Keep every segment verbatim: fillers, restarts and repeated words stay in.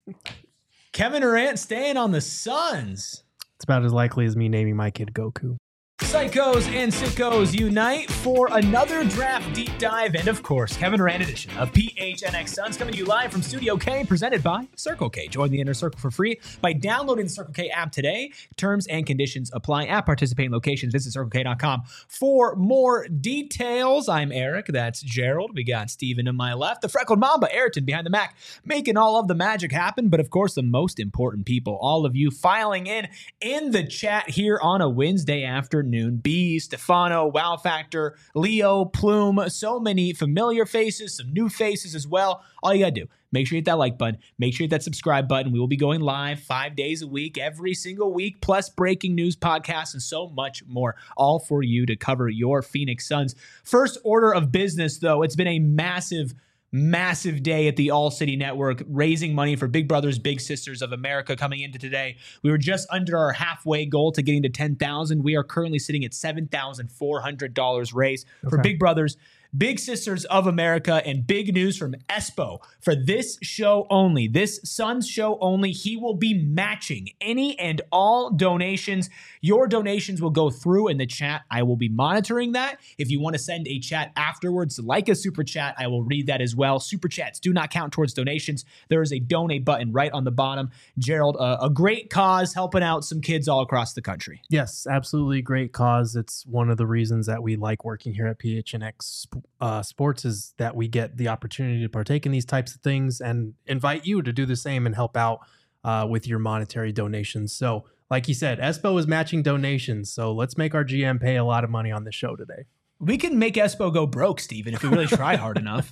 Kevin Durant staying on the Suns. It's about as likely as me naming my kid Goku. Psychos and sickos unite for another draft deep dive and, of course, Kevin Durant edition of P H N X Suns coming to you live from Studio K, presented by Circle K. Join the Inner Circle for free by downloading the Circle K app today. Terms and conditions apply at participating locations. Visit circle k dot com for more details. I'm Eric. That's Gerald. We got Steven to my left. The freckled Mamba, Ayrton, behind the Mac, making all of the magic happen. But, of course, the most important people, all of you filing in in the chat here on a Wednesday afternoon. B, Stefano, Wow Factor, Leo, Plume, so many familiar faces, some new faces as well. All you gotta do, make sure you hit that like button, make sure you hit that subscribe button. We will be going live five days a week, every single week, plus breaking news podcasts and so much more, all for you to cover your Phoenix Suns. First order of business, though, it's been a massive Massive day at the All City Network, raising money for Big Brothers Big Sisters of America coming into today. We were just under our halfway goal to getting to ten thousand. We are currently sitting at seven thousand four hundred dollars raised okay. for Big Brothers Big Sisters of America. And big news from Espo for this show only, this Suns show only. He will be matching any and all donations. Your donations will go through in the chat. I will be monitoring that. If you want to send a chat afterwards, like a super chat, I will read that as well. Super chats do not count towards donations. There is a donate button right on the bottom. Gerald, uh, a great cause helping out some kids all across the country. Yes, absolutely great cause. It's one of the reasons that we like working here at P H N X uh, Sports is that we get the opportunity to partake in these types of things and invite you to do the same and help out uh, with your monetary donations. So like you said, Espo is matching donations. So let's make our G M pay a lot of money on the show today. We can make Espo go broke, Steven, if we really try hard enough.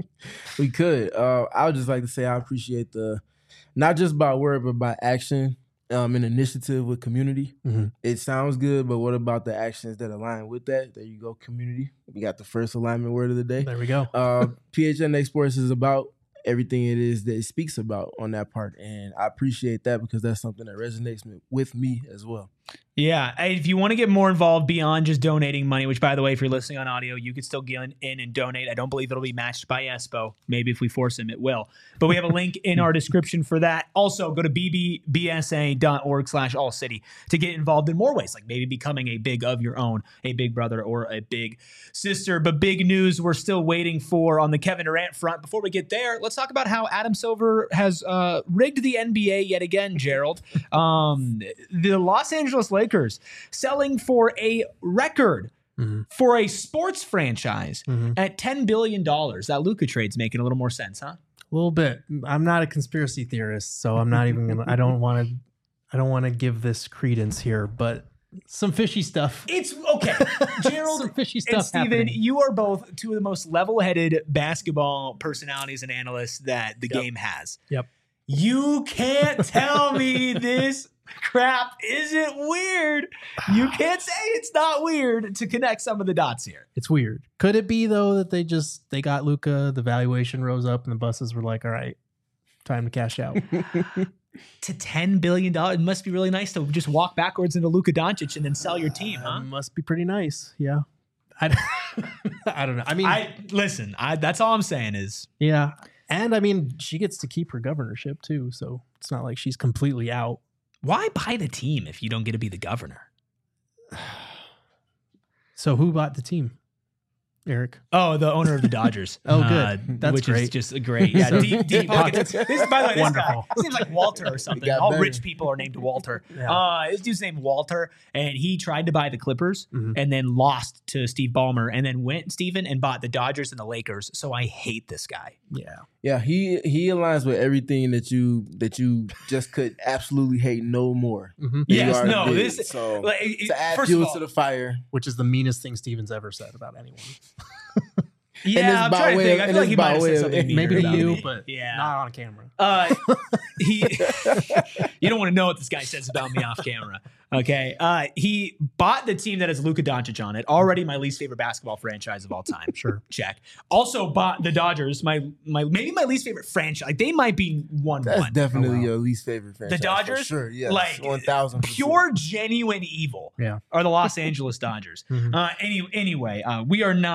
We could. Uh, I would just like to say I appreciate the, not just by word, but by action. Um, an initiative with community. Mm-hmm. It sounds good, but what about the actions that align with that? There you go, community. We got the first alignment word of the day. There we go. Uh, P H N X Sports is about everything it is that it speaks about on that part, and I appreciate that because that's something that resonates with me as well. Yeah, if you want to get more involved beyond just donating money, which, by the way, if you're listening on audio, you could still get in and donate. I don't believe it'll be matched by Espo. Maybe if we force him, it will. But we have a link in our description for that. Also, go to b b b s a dot org slash all city to get involved in more ways, like maybe becoming a big of your own, a big brother or a big sister. But big news we're still waiting for on the Kevin Durant front. Before we get there, let's talk about how Adam Silver has uh, rigged the N B A yet again, Gerald. Um, the Los Angeles Lakers selling for a record mm-hmm. for a sports franchise mm-hmm. at ten billion dollars. That Luka trade's making a little more sense, huh? A little bit. I'm not a conspiracy theorist, so I'm not even gonna, I don't want to, I don't want to give this credence here, but some fishy stuff. It's okay. Gerald some fishy stuff and Steven, happening. You are both two of the most level-headed basketball personalities and analysts that the yep. game has. Yep. You can't tell me this crap isn't weird. You can't say it's not weird to connect some of the dots here. It's weird. Could it be, though, that they just, they got Luka, the valuation rose up, and the buses were like, all right, time to cash out. To ten billion dollars, it must be really nice to just walk backwards into Luka Doncic and then sell your team, huh? Uh, must be pretty nice, yeah. I, I don't know. I mean, I listen, I, that's all I'm saying is. Yeah. And, I mean, she gets to keep her governorship, too, so it's not like she's completely out. Why buy the team if you don't get to be the governor? So who bought the team? Eric. Oh, the owner of the Dodgers. oh, good. Uh, That's which great. is just a great. Yeah, So, deep, deep pockets. This is, by the way, this Wonderful. guy seems like Walter or something. All better. Rich people are named Walter. Yeah. Uh, this dude's named Walter, and he tried to buy the Clippers mm-hmm. and then lost to Steve Ballmer, and then went, Steven, and bought the Dodgers and the Lakers. So I hate this guy. Yeah. Yeah, he he aligns with everything that you that you just could absolutely hate no more. Mm-hmm. Yes, no, did. this so like, it, to add first fuel of all, to the fire, which is the meanest thing Steven's ever said about anyone. Yeah, I'm trying to think. I feel like he might have said of, something meaner maybe to about you, me. but yeah. not on camera. Uh, he, you don't want to know what this guy says about me off camera. Okay. Uh, he bought the team that has Luka Doncic on it. Already my least favorite basketball franchise of all time. Sure. Check. Also bought the Dodgers, my my maybe my least favorite franchise. Like, they might be one That's one. definitely Oh, wow. your least favorite franchise. The Dodgers? For sure, yes. Like, one thousand pure genuine evil Yeah. are the Los Angeles Dodgers. Mhm. Uh, any, anyway, uh, we are not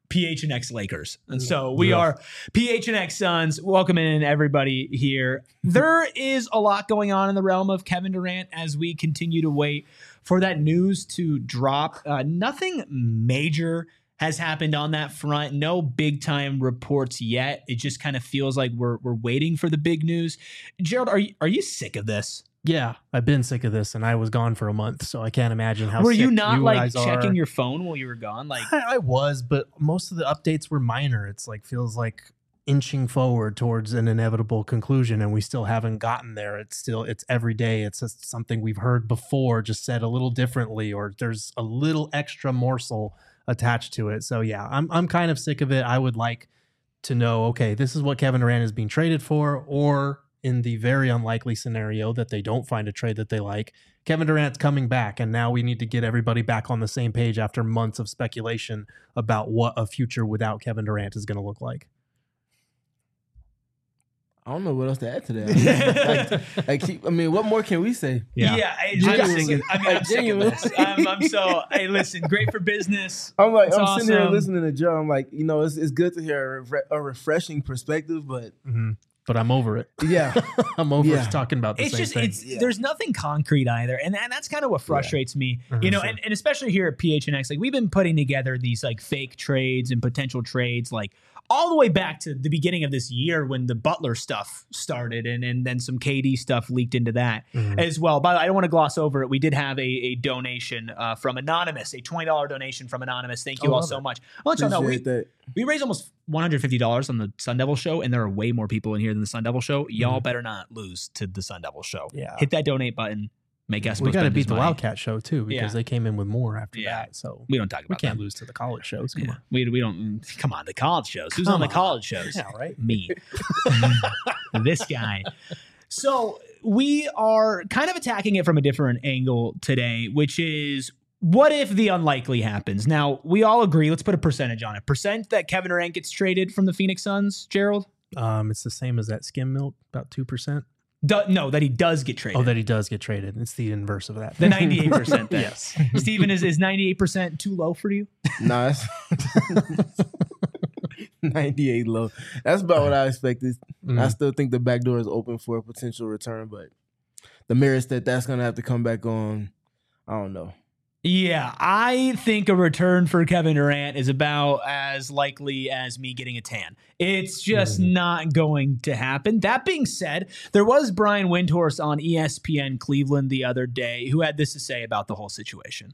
P H N X Lakers. And so we yeah. are P H N X Suns. Welcome in everybody here. There is a lot going on in the realm of Kevin Durant as we continue to wait for that news to drop. Uh, nothing major has happened on that front. No big time reports yet. It just kind of feels like we're we're waiting for the big news. Gerald, are you, are you sick of this? Yeah, I've been sick of this, and I was gone for a month, so I can't imagine how. Were sick you not you like guys checking are. your phone while you were gone? Like I, I was, but most of the updates were minor. It's like feels like inching forward towards an inevitable conclusion, and we still haven't gotten there. It's still it's every day. It's just something we've heard before, just said a little differently, or there's a little extra morsel attached to it. So yeah, I'm I'm kind of sick of it. I would like to know, okay, this is what Kevin Durant is being traded for, or in the very unlikely scenario that they don't find a trade that they like, Kevin Durant's coming back, and now we need to get everybody back on the same page after months of speculation about what a future without Kevin Durant is going to look like. I don't know what else to add to that. like, like keep, I mean, what more can we say? Yeah, yeah I, I'm, sick of, I mean, I'm sick of this. I'm, I'm so, hey, listen, great for business. I'm like, it's I'm awesome. sitting here listening to Joe. I'm like, you know, it's it's good to hear a, re- a refreshing perspective, but mm-hmm. but I'm over it. Yeah, I'm over yeah. talking about the it's same just, thing. It's yeah. There's nothing concrete either, and, and that's kind of what frustrates yeah. me. Mm-hmm, you know, sure. and, and especially here at P H N X, like we've been putting together these like fake trades and potential trades, like all the way back to the beginning of this year when the Butler stuff started, and, and then some K D stuff leaked into that mm-hmm. as well. But I don't want to gloss over it. We did have a, a donation uh, from Anonymous, a twenty dollars donation from Anonymous. Thank you I all so it. much. I'll let y'all know we, that. we raised almost one hundred fifty dollars on the Sun Devil show, and there are way more people in here than the Sun Devil show. Y'all mm-hmm. better not lose to the Sun Devil show. Yeah. Hit that donate button. Make us. We got to beat the Wildcat show too, because yeah. they came in with more after yeah. that. So we don't talk about. We can't that. lose to the college shows. Come yeah. on, we we don't. Come on, the college shows. Who's Come on the on. college shows? Yeah, right. Me. This guy. So we are kind of attacking it from a different angle today, which is what if the unlikely happens? Now we all agree. Let's put a percentage on it. Percent that Kevin Durant gets traded from the Phoenix Suns. Gerald. Um, it's the same as that skim milk, about two percent. Do, no, that he does get traded. Oh, that he does get traded. It's the inverse of that. The ninety-eight percent thing. Yes. Steven, is, is ninety-eight percent too low for you? No, that's ninety-eight low. That's about what I expected. Mm. I still think the back door is open for a potential return, but the merits that that's going to have to come back on, I don't know. Yeah, I think a return for Kevin Durant is about as likely as me getting a tan. It's just mm. not going to happen. That being said, there was Brian Windhorst on E S P N Cleveland the other day who had this to say about the whole situation.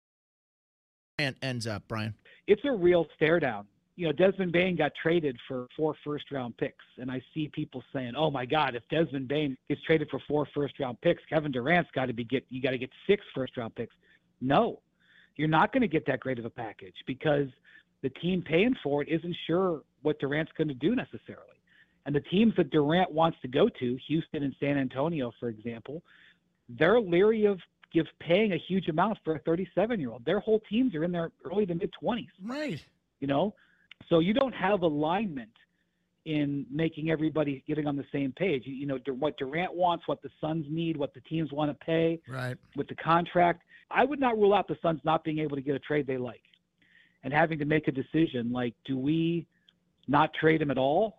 And ends up, Brian. It's a real stare down. You know, Desmond Bane got traded for four first round picks, and I see people saying, "Oh my God, if Desmond Bane gets traded for four first round picks, Kevin Durant's got to be get you got to get six first round picks." No, you're not going to get that great of a package because the team paying for it isn't sure what Durant's going to do necessarily. And the teams that Durant wants to go to, Houston and San Antonio, for example, they're leery of give paying a huge amount for a thirty-seven-year-old. Their whole teams are in their early to mid-twenties. Right. You know, so you don't have alignment in making everybody getting on the same page. You, you know, what Durant wants, what the Suns need, what the teams want to pay right. with the contract. I would not rule out the Suns not being able to get a trade they like and having to make a decision like, do we not trade him at all?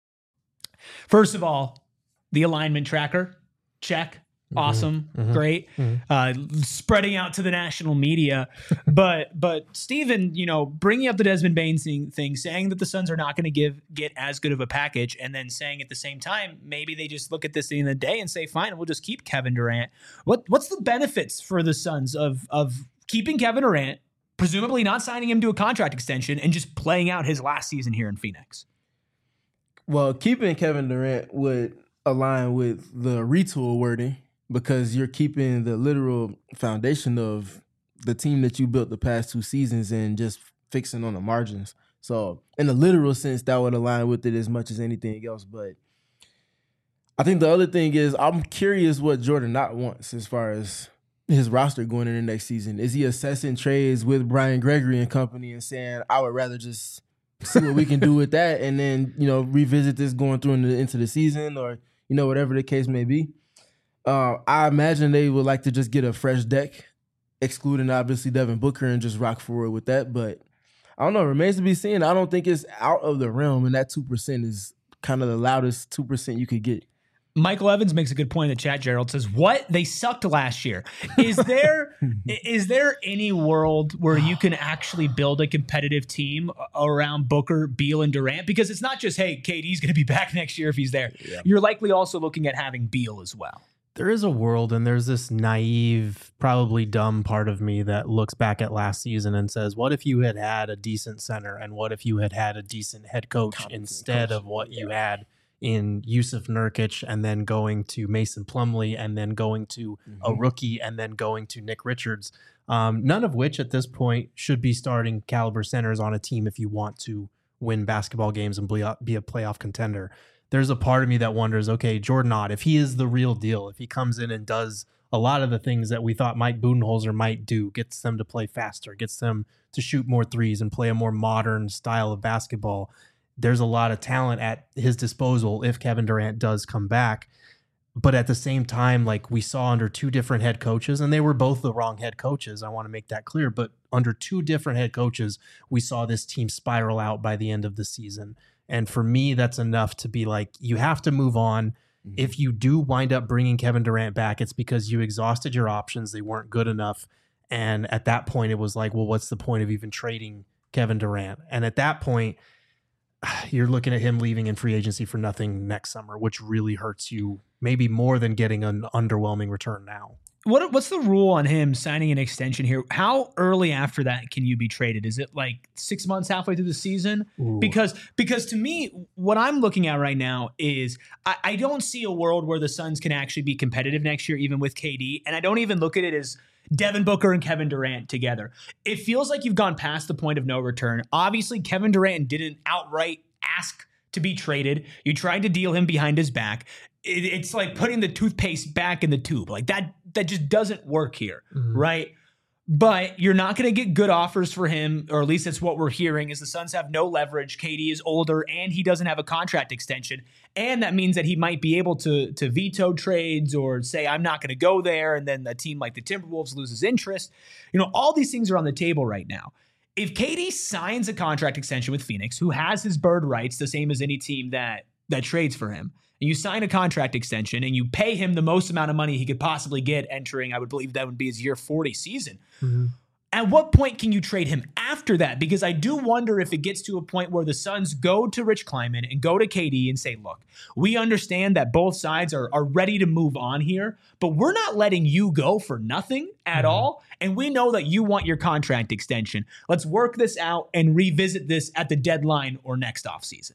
First of all, the alignment tracker, check. Awesome. Mm-hmm. Great. Mm-hmm. Uh, spreading out to the national media. But, but Steven, you know, bringing up the Desmond Bane thing, thing, saying that the Suns are not going to give get as good of a package, and then saying at the same time, maybe they just look at this at the end of the day and say, fine, we'll just keep Kevin Durant. What What's the benefits for the Suns of of keeping Kevin Durant, presumably not signing him to a contract extension, and just playing out his last season here in Phoenix? Well, keeping Kevin Durant would align with the retool wording, because you're keeping the literal foundation of the team that you built the past two seasons and just fixing on the margins. So in the literal sense, that would align with it as much as anything else. But I think the other thing is I'm curious what Jordan Knott wants as far as his roster going into next season. Is he assessing trades with Brian Gregory and company and saying, I would rather just see what we can do with that and then, you know, revisit this going through into, into the season or, you know, whatever the case may be. Uh, I imagine they would like to just get a fresh deck, excluding obviously Devin Booker, and just rock forward with that. But I don't know. It remains to be seen. I don't think it's out of the realm, and that two percent is kind of the loudest two percent you could get. Michael Evans makes a good point in the chat. Gerald says, what? They sucked last year. Is there is there any world where you can actually build a competitive team around Booker, Beal, and Durant? Because it's not just, hey, K D's going to be back next year if he's there. Yeah. You're likely also looking at having Beal as well. There is a world, and there's this naive, probably dumb part of me that looks back at last season and says, what if you had had a decent center, and what if you had had a decent head coach Competent instead coach. of what yeah. you had in Yusuf Nurkic, and then going to Mason Plumlee, and then going to mm-hmm. a rookie, and then going to Nick Richards, um, none of which at this point should be starting caliber centers on a team if you want to win basketball games and be a, be a playoff contender. There's a part of me that wonders, okay, Jordan Ott, if he is the real deal, if he comes in and does a lot of the things that we thought Mike Budenholzer might do, gets them to play faster, gets them to shoot more threes and play a more modern style of basketball, there's a lot of talent at his disposal if Kevin Durant does come back. But at the same time, like we saw under two different head coaches, and they were both the wrong head coaches, I want to make that clear, but under two different head coaches, we saw this team spiral out by the end of the season. And for me, that's enough to be like, you have to move on. Mm-hmm. If you do wind up bringing Kevin Durant back, it's because you exhausted your options. They weren't good enough. And at that point, it was like, well, what's the point of even trading Kevin Durant? And at that point, you're looking at him leaving in free agency for nothing next summer, which really hurts you maybe more than getting an underwhelming return now. What What's the rule on him signing an extension here? How early after that can you be traded? Is it like six months, halfway through the season? Ooh. Because because to me, what I'm looking at right now is I, I don't see a world where the Suns can actually be competitive next year, even with K D. And I don't even look at it as Devin Booker and Kevin Durant together. It feels like you've gone past the point of no return. Obviously, Kevin Durant didn't outright ask to be traded. You tried to deal him behind his back. It, it's like putting the toothpaste back in the tube. Like that, that just doesn't work here, mm-hmm. right? But you're not going to get good offers for him, or at least that's what we're hearing, is the Suns have no leverage. K D is older, and he doesn't have a contract extension. And that means that he might be able to, to veto trades or say, I'm not going to go there, and then a team like the Timberwolves loses interest. You know, all these things are on the table right now. If K D signs a contract extension with Phoenix, who has his bird rights, the same as any team that that trades for him, and you sign a contract extension and you pay him the most amount of money he could possibly get entering, I would believe that would be his year forty season. Mm-hmm. At what point can you trade him after that? Because I do wonder if it gets to a point where the Suns go to Rich Kleiman and go to K D and say, look, we understand that both sides are, are ready to move on here, but we're not letting you go for nothing at mm-hmm. all. And we know that you want your contract extension. Let's work this out and revisit this at the deadline or next offseason.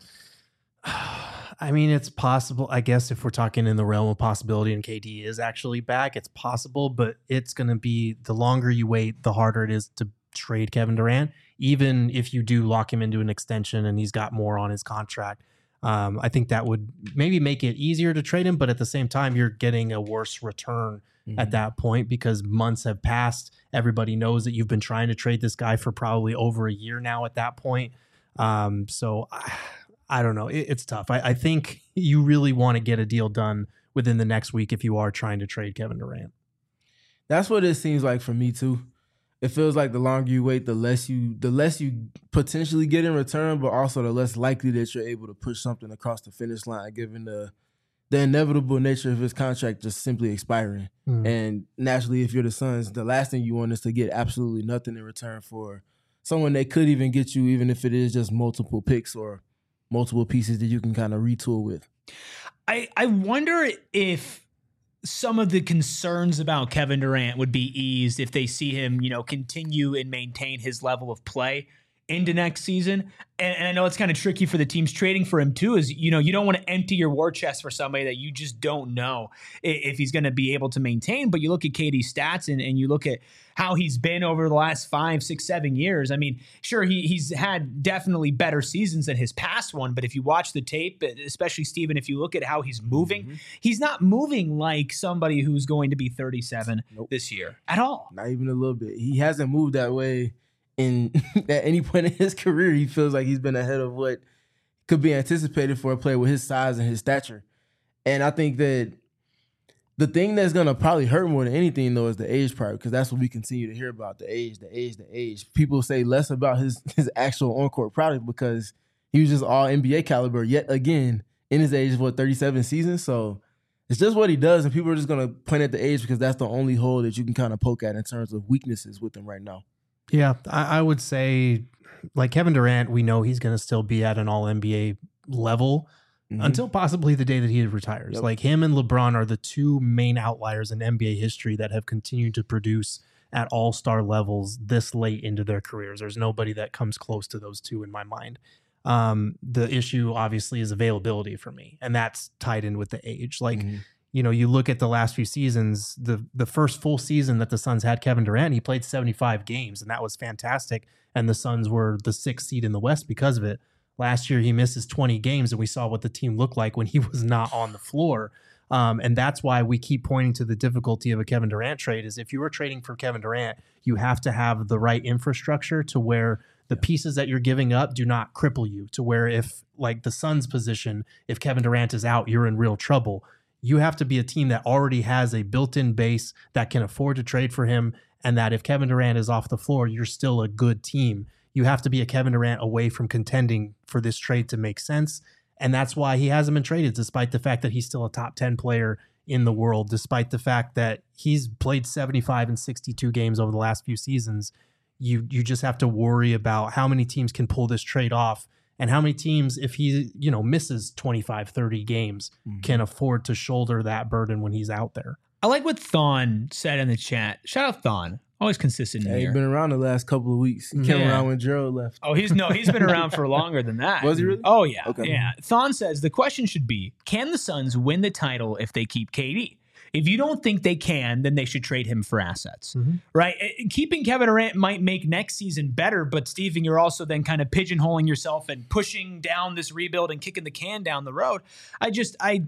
I mean, it's possible, I guess, if we're talking in the realm of possibility and K D is actually back, it's possible, but it's going to be, the longer you wait, the harder it is to trade Kevin Durant, even if you do lock him into an extension and he's got more on his contract. Um, I think that would maybe make it easier to trade him, but at the same time, you're getting a worse return mm-hmm. at that point because months have passed. Everybody knows that you've been trying to trade this guy for probably over a year now at that point. Um, so I, I don't know. It, it's tough. I, I think you really want to get a deal done within the next week if you are trying to trade Kevin Durant. That's what it seems like for me too. It feels like the longer you wait, the less you the less you potentially get in return, but also the less likely that you're able to push something across the finish line, given the the inevitable nature of his contract just simply expiring. Mm. And naturally, if you're the Suns, the last thing you want is to get absolutely nothing in return for someone that could even get you, even if it is just multiple picks or multiple pieces that you can kind of retool with. I, I wonder if some of the concerns about Kevin Durant would be eased if they see him, you know, continue and maintain his level of play into next season. And, and I know it's kind of tricky for the teams trading for him too, is, you know, you don't want to empty your war chest for somebody that you just don't know if he's going to be able to maintain. But you look at K D's stats and, and you look at how he's been over the last five, six, seven years. I mean, sure, he he's had definitely better seasons than his past one. But if you watch the tape, especially Steven, if you look at how he's moving, mm-hmm. he's not moving like somebody who's going to be thirty-seven nope. this year at all. Not even a little bit. He hasn't moved that way. In at any point in his career, he feels like he's been ahead of what could be anticipated for a player with his size and his stature. And I think that The thing that's gonna probably hurt more than anything though is the age part, because that's what we continue to hear about, the age, the age, the age. People say less about his his actual on-court product because he was just all N B A caliber yet again in his age of what, thirty-seven seasons. So it's just what he does, and people are just gonna point at the age because that's the only hole that you can kind of poke at in terms of weaknesses with him right now. Yeah, I, I would say like Kevin Durant, we know he's gonna still be at an all N B A level. Mm-hmm. Until possibly the day that he retires. Yep. Like him and LeBron are the two main outliers in N B A history that have continued to produce at all-star levels this late into their careers. There's nobody that comes close to those two in my mind. Um, the issue obviously is availability for me, and that's tied in with the age. Like, mm-hmm. you know, you look at the last few seasons, the the first full season that the Suns had Kevin Durant, he played seventy-five games, and that was fantastic. And the Suns were the sixth seed in the West because of it. Last year, he misses twenty games, and we saw what the team looked like when he was not on the floor. Um, and that's why we keep pointing to the difficulty of a Kevin Durant trade is if you were trading for Kevin Durant, you have to have the right infrastructure to where the pieces that you're giving up do not cripple you, to where if, like the Suns' position, if Kevin Durant is out, you're in real trouble. You have to be a team that already has a built-in base that can afford to trade for him, and that if Kevin Durant is off the floor, you're still a good team. You have to be a Kevin Durant away from contending for this trade to make sense. And that's why he hasn't been traded, despite the fact that he's still a top ten player in the world, despite the fact that he's played seventy-five and sixty-two games over the last few seasons. You you just have to worry about how many teams can pull this trade off and how many teams, if he you know misses twenty-five, thirty games, mm-hmm. can afford to shoulder that burden when he's out there. I like what Thon said in the chat. Shout out Thon. Always consistent in yeah, here. He's been around the last couple of weeks. He came yeah. around when Gerald left. Oh, he's no, he's been around for longer than that. Was he really? Oh, yeah. Okay. Yeah. Thon says the question should be, can the Suns win the title if they keep K D? If you don't think they can, then they should trade him for assets, mm-hmm. right? Keeping Kevin Durant might make next season better, but Steven, you're also then kind of pigeonholing yourself and pushing down this rebuild and kicking the can down the road. I just, I...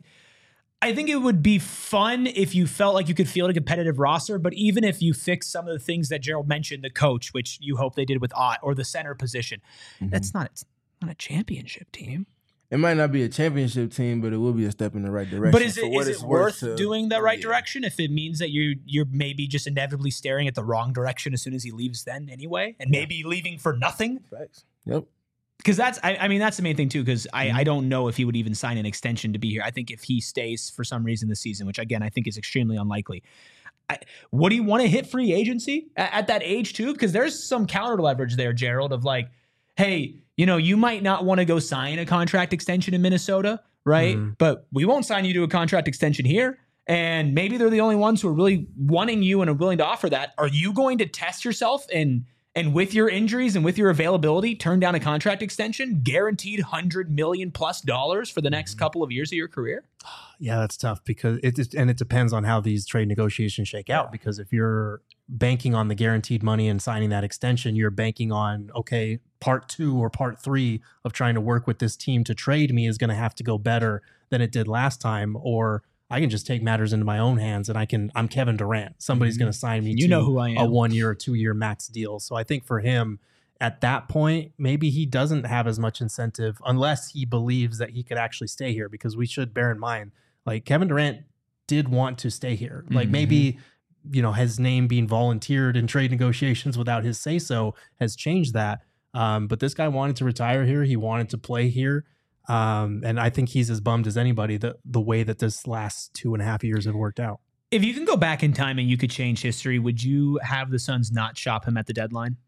I think it would be fun if you felt like you could field a competitive roster, but even if you fix some of the things that Gerald mentioned, the coach, which you hope they did with Ott, or the center position, mm-hmm. that's not, it's not a championship team. It might not be a championship team, but it will be a step in the right direction. But is it, is it worth to, doing the right yeah. direction if it means that you, you're maybe just inevitably staring at the wrong direction as soon as he leaves then anyway, and maybe yeah. leaving for nothing? Facts. Yep. Because that's, I, I mean, that's the main thing too. Because I, I don't know if he would even sign an extension to be here. I think if he stays for some reason this season, which again I think is extremely unlikely, I, would he want to hit free agency at, at that age too? Because there's some counter leverage there, Gerald, of like, hey, you know, you might not want to go sign a contract extension in Minnesota, right? Mm. But we won't sign you to a contract extension here. And maybe they're the only ones who are really wanting you and are willing to offer that. Are you going to test yourself and? And with your injuries and with your availability, turn down a contract extension, guaranteed one hundred million plus dollars for the next couple of years of your career? Yeah, that's tough because it and it depends on how these trade negotiations shake out. Because if you're banking on the guaranteed money and signing that extension, you're banking on, okay, part two or part three of trying to work with this team to trade me is going to have to go better than it did last time, or I can just take matters into my own hands and I can, I'm Kevin Durant. Somebody's mm-hmm. going to sign me you to know who I am. a one year or two year max deal. So I think for him at that point, maybe he doesn't have as much incentive unless he believes that he could actually stay here, because we should bear in mind, like Kevin Durant did want to stay here. Like mm-hmm. maybe, you know, his name being volunteered in trade negotiations without his say so has changed that. Um, but this guy wanted to retire here. He wanted to play here. Um, and I think he's as bummed as anybody the, the way that this last two and a half years have worked out. If you can go back in time and you could change history, would you have the Suns not shop him at the deadline?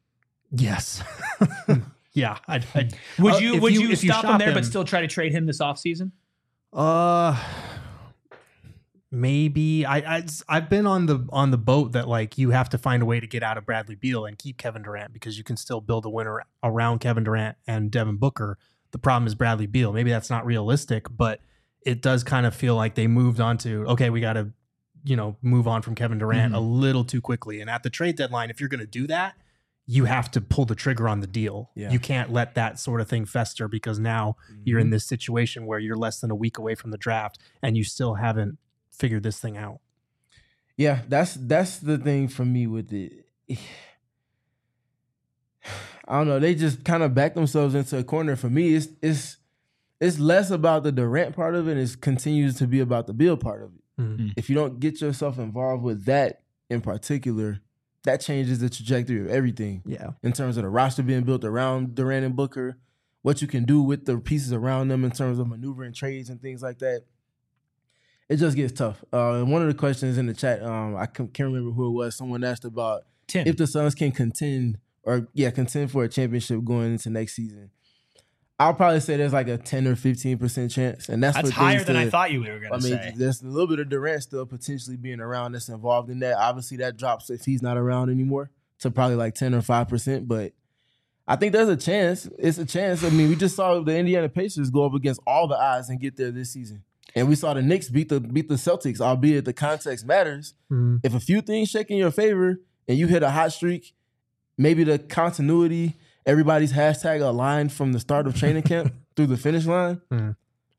Yes. yeah. I'd, I'd, would you, uh, would you, you stop you him there him, but still try to trade him this offseason? Uh, maybe. I, I, I've been on the on the boat that like you have to find a way to get out of Bradley Beal and keep Kevin Durant, because you can still build a winner around Kevin Durant and Devin Booker. The problem is Bradley Beal. Maybe that's not realistic, but it does kind of feel like they moved on to, okay, we got to, you know, move on from Kevin Durant mm-hmm. a little too quickly. And at the trade deadline, if you're going to do that, you have to pull the trigger on the deal. Yeah. You can't let that sort of thing fester, because now mm-hmm. you're in this situation where you're less than a week away from the draft and you still haven't figured this thing out. Yeah, that's that's the thing for me with it. I don't know. They just kind of back themselves into a corner. For me, it's it's it's less about the Durant part of it. It continues to be about the Beal part of it. Mm-hmm. If you don't get yourself involved with that in particular, that changes the trajectory of everything. Yeah. In terms of the roster being built around Durant and Booker, what you can do with the pieces around them in terms of maneuvering trades and things like that. It just gets tough. Uh, and one of the questions in the chat, um, I can't remember who it was. Someone asked about Tim. if the Suns can contend or yeah, contend for a championship going into next season. I'll probably say there's like a ten or fifteen percent chance, and that's, that's higher than to, I thought you were going to say. I mean, there's a little bit of Durant still potentially being around that's involved in that. Obviously, that drops if he's not around anymore to probably like ten or five percent. But I think there's a chance. It's a chance. I mean, we just saw the Indiana Pacers go up against all the odds and get there this season. And we saw the Knicks beat the beat the Celtics, albeit the context matters. Mm-hmm. If a few things shake in your favor and you hit a hot streak, maybe the continuity, everybody's hashtag aligned from the start of training camp through the finish line. Mm.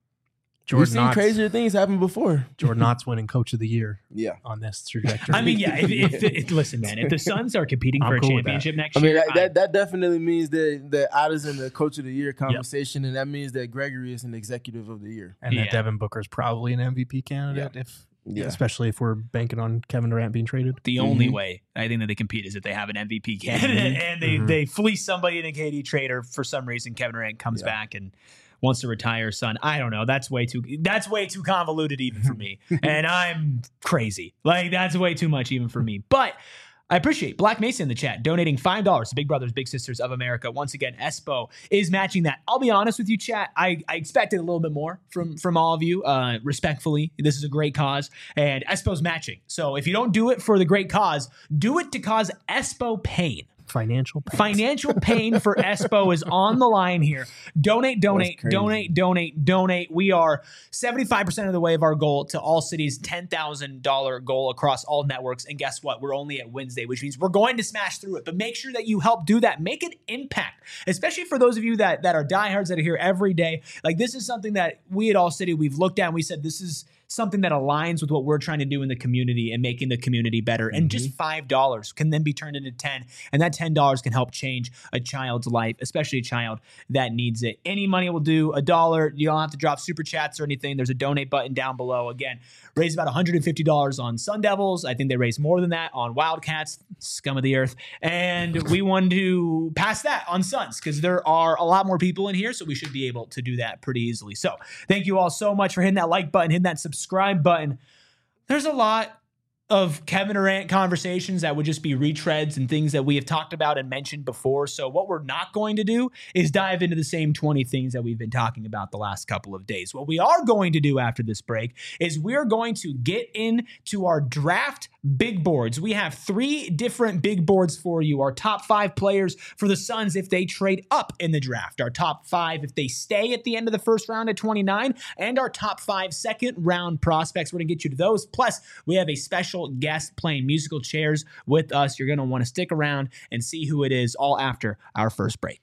We've seen Knott's, crazier things happen before. Jordan Knott's winning Coach of the Year yeah. on this trajectory. I mean, yeah, if, if, if, listen, man, if the Suns are competing for I'm a cool championship next I mean, year. That, I, that, that definitely means that, that Otto's in the Coach of the Year conversation, yep. and that means that Gregory is an Executive of the Year. And yeah. that Devin Booker's probably an M V P candidate, yeah. if yeah. especially if we're banking on Kevin Durant being traded. The mm-hmm. only way I think that they compete is if they have an M V P candidate mm-hmm. and they, mm-hmm. they fleece somebody in a K D trade, or for some reason Kevin Durant comes yeah. back and wants to retire son. I don't know. That's way too that's way too convoluted even for me. And I'm crazy. Like, that's way too much even for me. But I appreciate Black Mesa in the chat donating five dollars to Big Brothers Big Sisters of America. Once again, Espo is matching that. I'll be honest with you, chat. I, I expected a little bit more from, from all of you. Uh, respectfully, this is a great cause, and Espo's matching. So if you don't do it for the great cause, do it to cause Espo pain. Financial pain. Financial pain for Espo is on the line here. Donate, donate, donate, donate, donate. We are seventy-five percent of the way of our goal to All City's ten thousand dollars goal across all networks. And guess what? We're only at Wednesday, which means we're going to smash through it. But make sure that you help do that. Make an impact, especially for those of you that, that are diehards that are here every day. Like, this is something that we at All City, we've looked at and we said, this is something that aligns with what we're trying to do in the community and making the community better. And mm-hmm. just five dollars can then be turned into ten. And that ten dollars can help change a child's life, especially a child that needs it. Any money will do. A dollar. You don't have to drop super chats or anything. There's a donate button down below. Again, raise about one hundred fifty dollars on Sun Devils. I think they raised more than that on Wildcats, scum of the earth. And we want to pass that on Suns because there are a lot more people in here, so we should be able to do that pretty easily. So thank you all so much for hitting that like button, hitting that subscribe subscribe button. There's a lot of Kevin Durant conversations that would just be retreads and things that we have talked about and mentioned before. So what we're not going to do is dive into the same twenty things that we've been talking about the last couple of days. What we are going to do after this break is we're going to get into our draft big boards. We have three different big boards for you. Our top five players for the Suns if they trade up in the draft. Our top five if they stay at the end of the first round at twenty-nine. And our top five second round prospects. We're going to get you to those. Plus, we have a special guest playing musical chairs with us. You're going to want to stick around and see who it is all after our first break.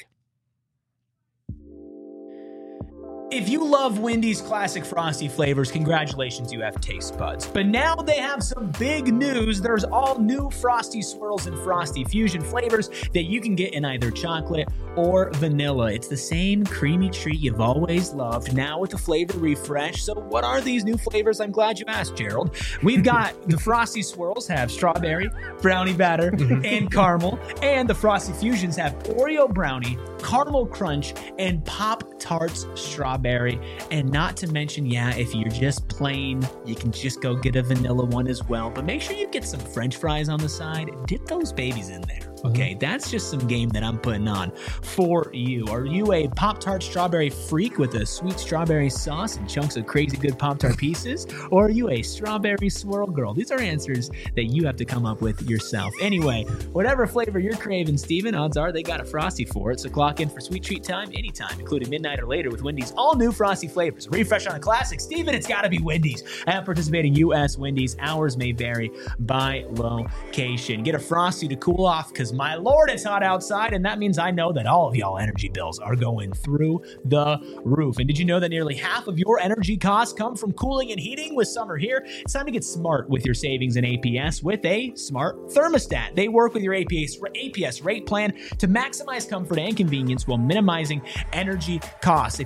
If you love Wendy's classic Frosty flavors, congratulations, you have taste buds. But now they have some big news. There's all new Frosty Swirls and Frosty Fusion flavors that you can get in either chocolate or vanilla. It's the same creamy treat you've always loved, now with a flavor refresh. So what are these new flavors? I'm glad you asked, Gerald. We've got the Frosty Swirls have strawberry, brownie batter, and caramel. And the Frosty Fusions have Oreo brownie, caramel crunch, and Pop-Tarts strawberry. And not to mention, yeah, if you're just plain, you can just go get a vanilla one as well. But make sure you get some French fries on the side. Dip those babies in there. Okay, mm-hmm. That's just some game that I'm putting on for you. Are you a Pop-Tart strawberry freak with a sweet strawberry sauce and chunks of crazy good Pop-Tart pieces? Or are you a strawberry swirl girl? These are answers that you have to come up with yourself. Anyway, whatever flavor you're craving, Steven, odds are they got a Frosty for it. So clock in for sweet treat time anytime, including midnight or later with Wendy's all new Frosty flavors. Refresh on a classic. Steven, it's got to be Wendy's. At participating U S Wendy's, hours may vary by location. Get a Frosty to cool off because my Lord, it's hot outside, and that means I know that all of y'all energy bills are going through the roof. And did you know that nearly half of your energy costs come from cooling and heating? With summer here, it's time to get smart with your savings in A P S with a smart thermostat. They work with your A P S, A P S rate plan to maximize comfort and convenience while minimizing energy costs. If you have an A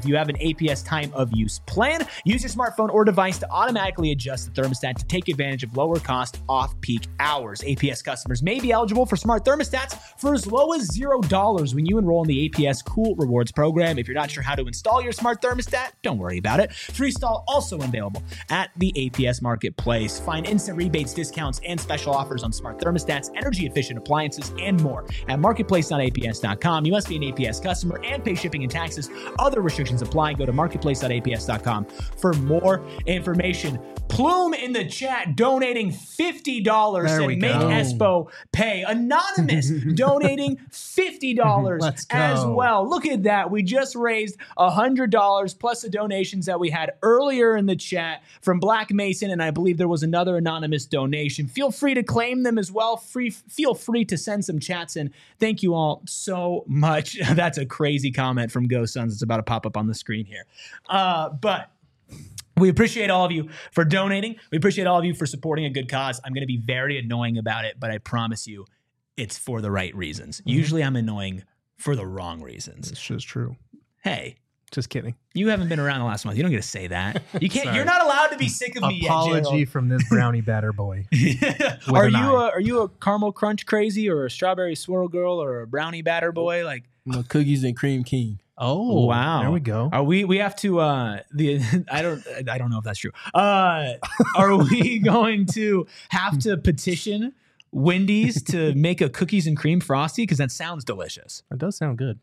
A P S time of use plan. Use your smartphone or device to automatically adjust the thermostat to take advantage of lower cost off-peak hours. A P S customers may be eligible for smart thermostats for as low as zero dollars when you enroll in the A P S Cool Rewards program. If you're not sure how to install your smart thermostat, don't worry about it. Freestyle also available at the A P S Marketplace. Find instant rebates, discounts, and special offers on smart thermostats, energy-efficient appliances, and more at marketplace dot A P S dot com. You must be an A P S customer and pay shipping and taxes. Other restrictions apply. Go to marketplace dot A P S dot com for more information. Plume in the chat donating fifty dollars There we and make go. Espo pay. Anonymous donating fifty dollars Let's go. as well. Look at that. We just raised one hundred dollars plus the donations that we had earlier in the chat from Black Mason, and I believe there was another anonymous donation. Feel free to claim them as well. Free, feel free to send some chats in. Thank you all so much. That's a crazy comment from Go Suns. It's about to pop up on the screen here. Uh, but we appreciate all of you for donating. We appreciate all of you for supporting a good cause. I'm going to be very annoying about it, but I promise you it's for the right reasons. Mm-hmm. Usually I'm annoying for the wrong reasons. This is true. Hey, Just kidding. you haven't been around the last month. You don't get to say that. You can't. Sorry. You're not allowed to be sick of me Apology yet, from this brownie batter boy. Gerald. Are an you eye. a, are you a caramel crunch crazy or a strawberry swirl girl or a brownie batter boy? Like, I'm a cookies and cream king. Oh, wow. There we go. Are we we have to uh the I don't I don't know if that's true. Uh are we going to have to petition Wendy's to make a cookies and cream frosty? Because that sounds delicious. That does sound good.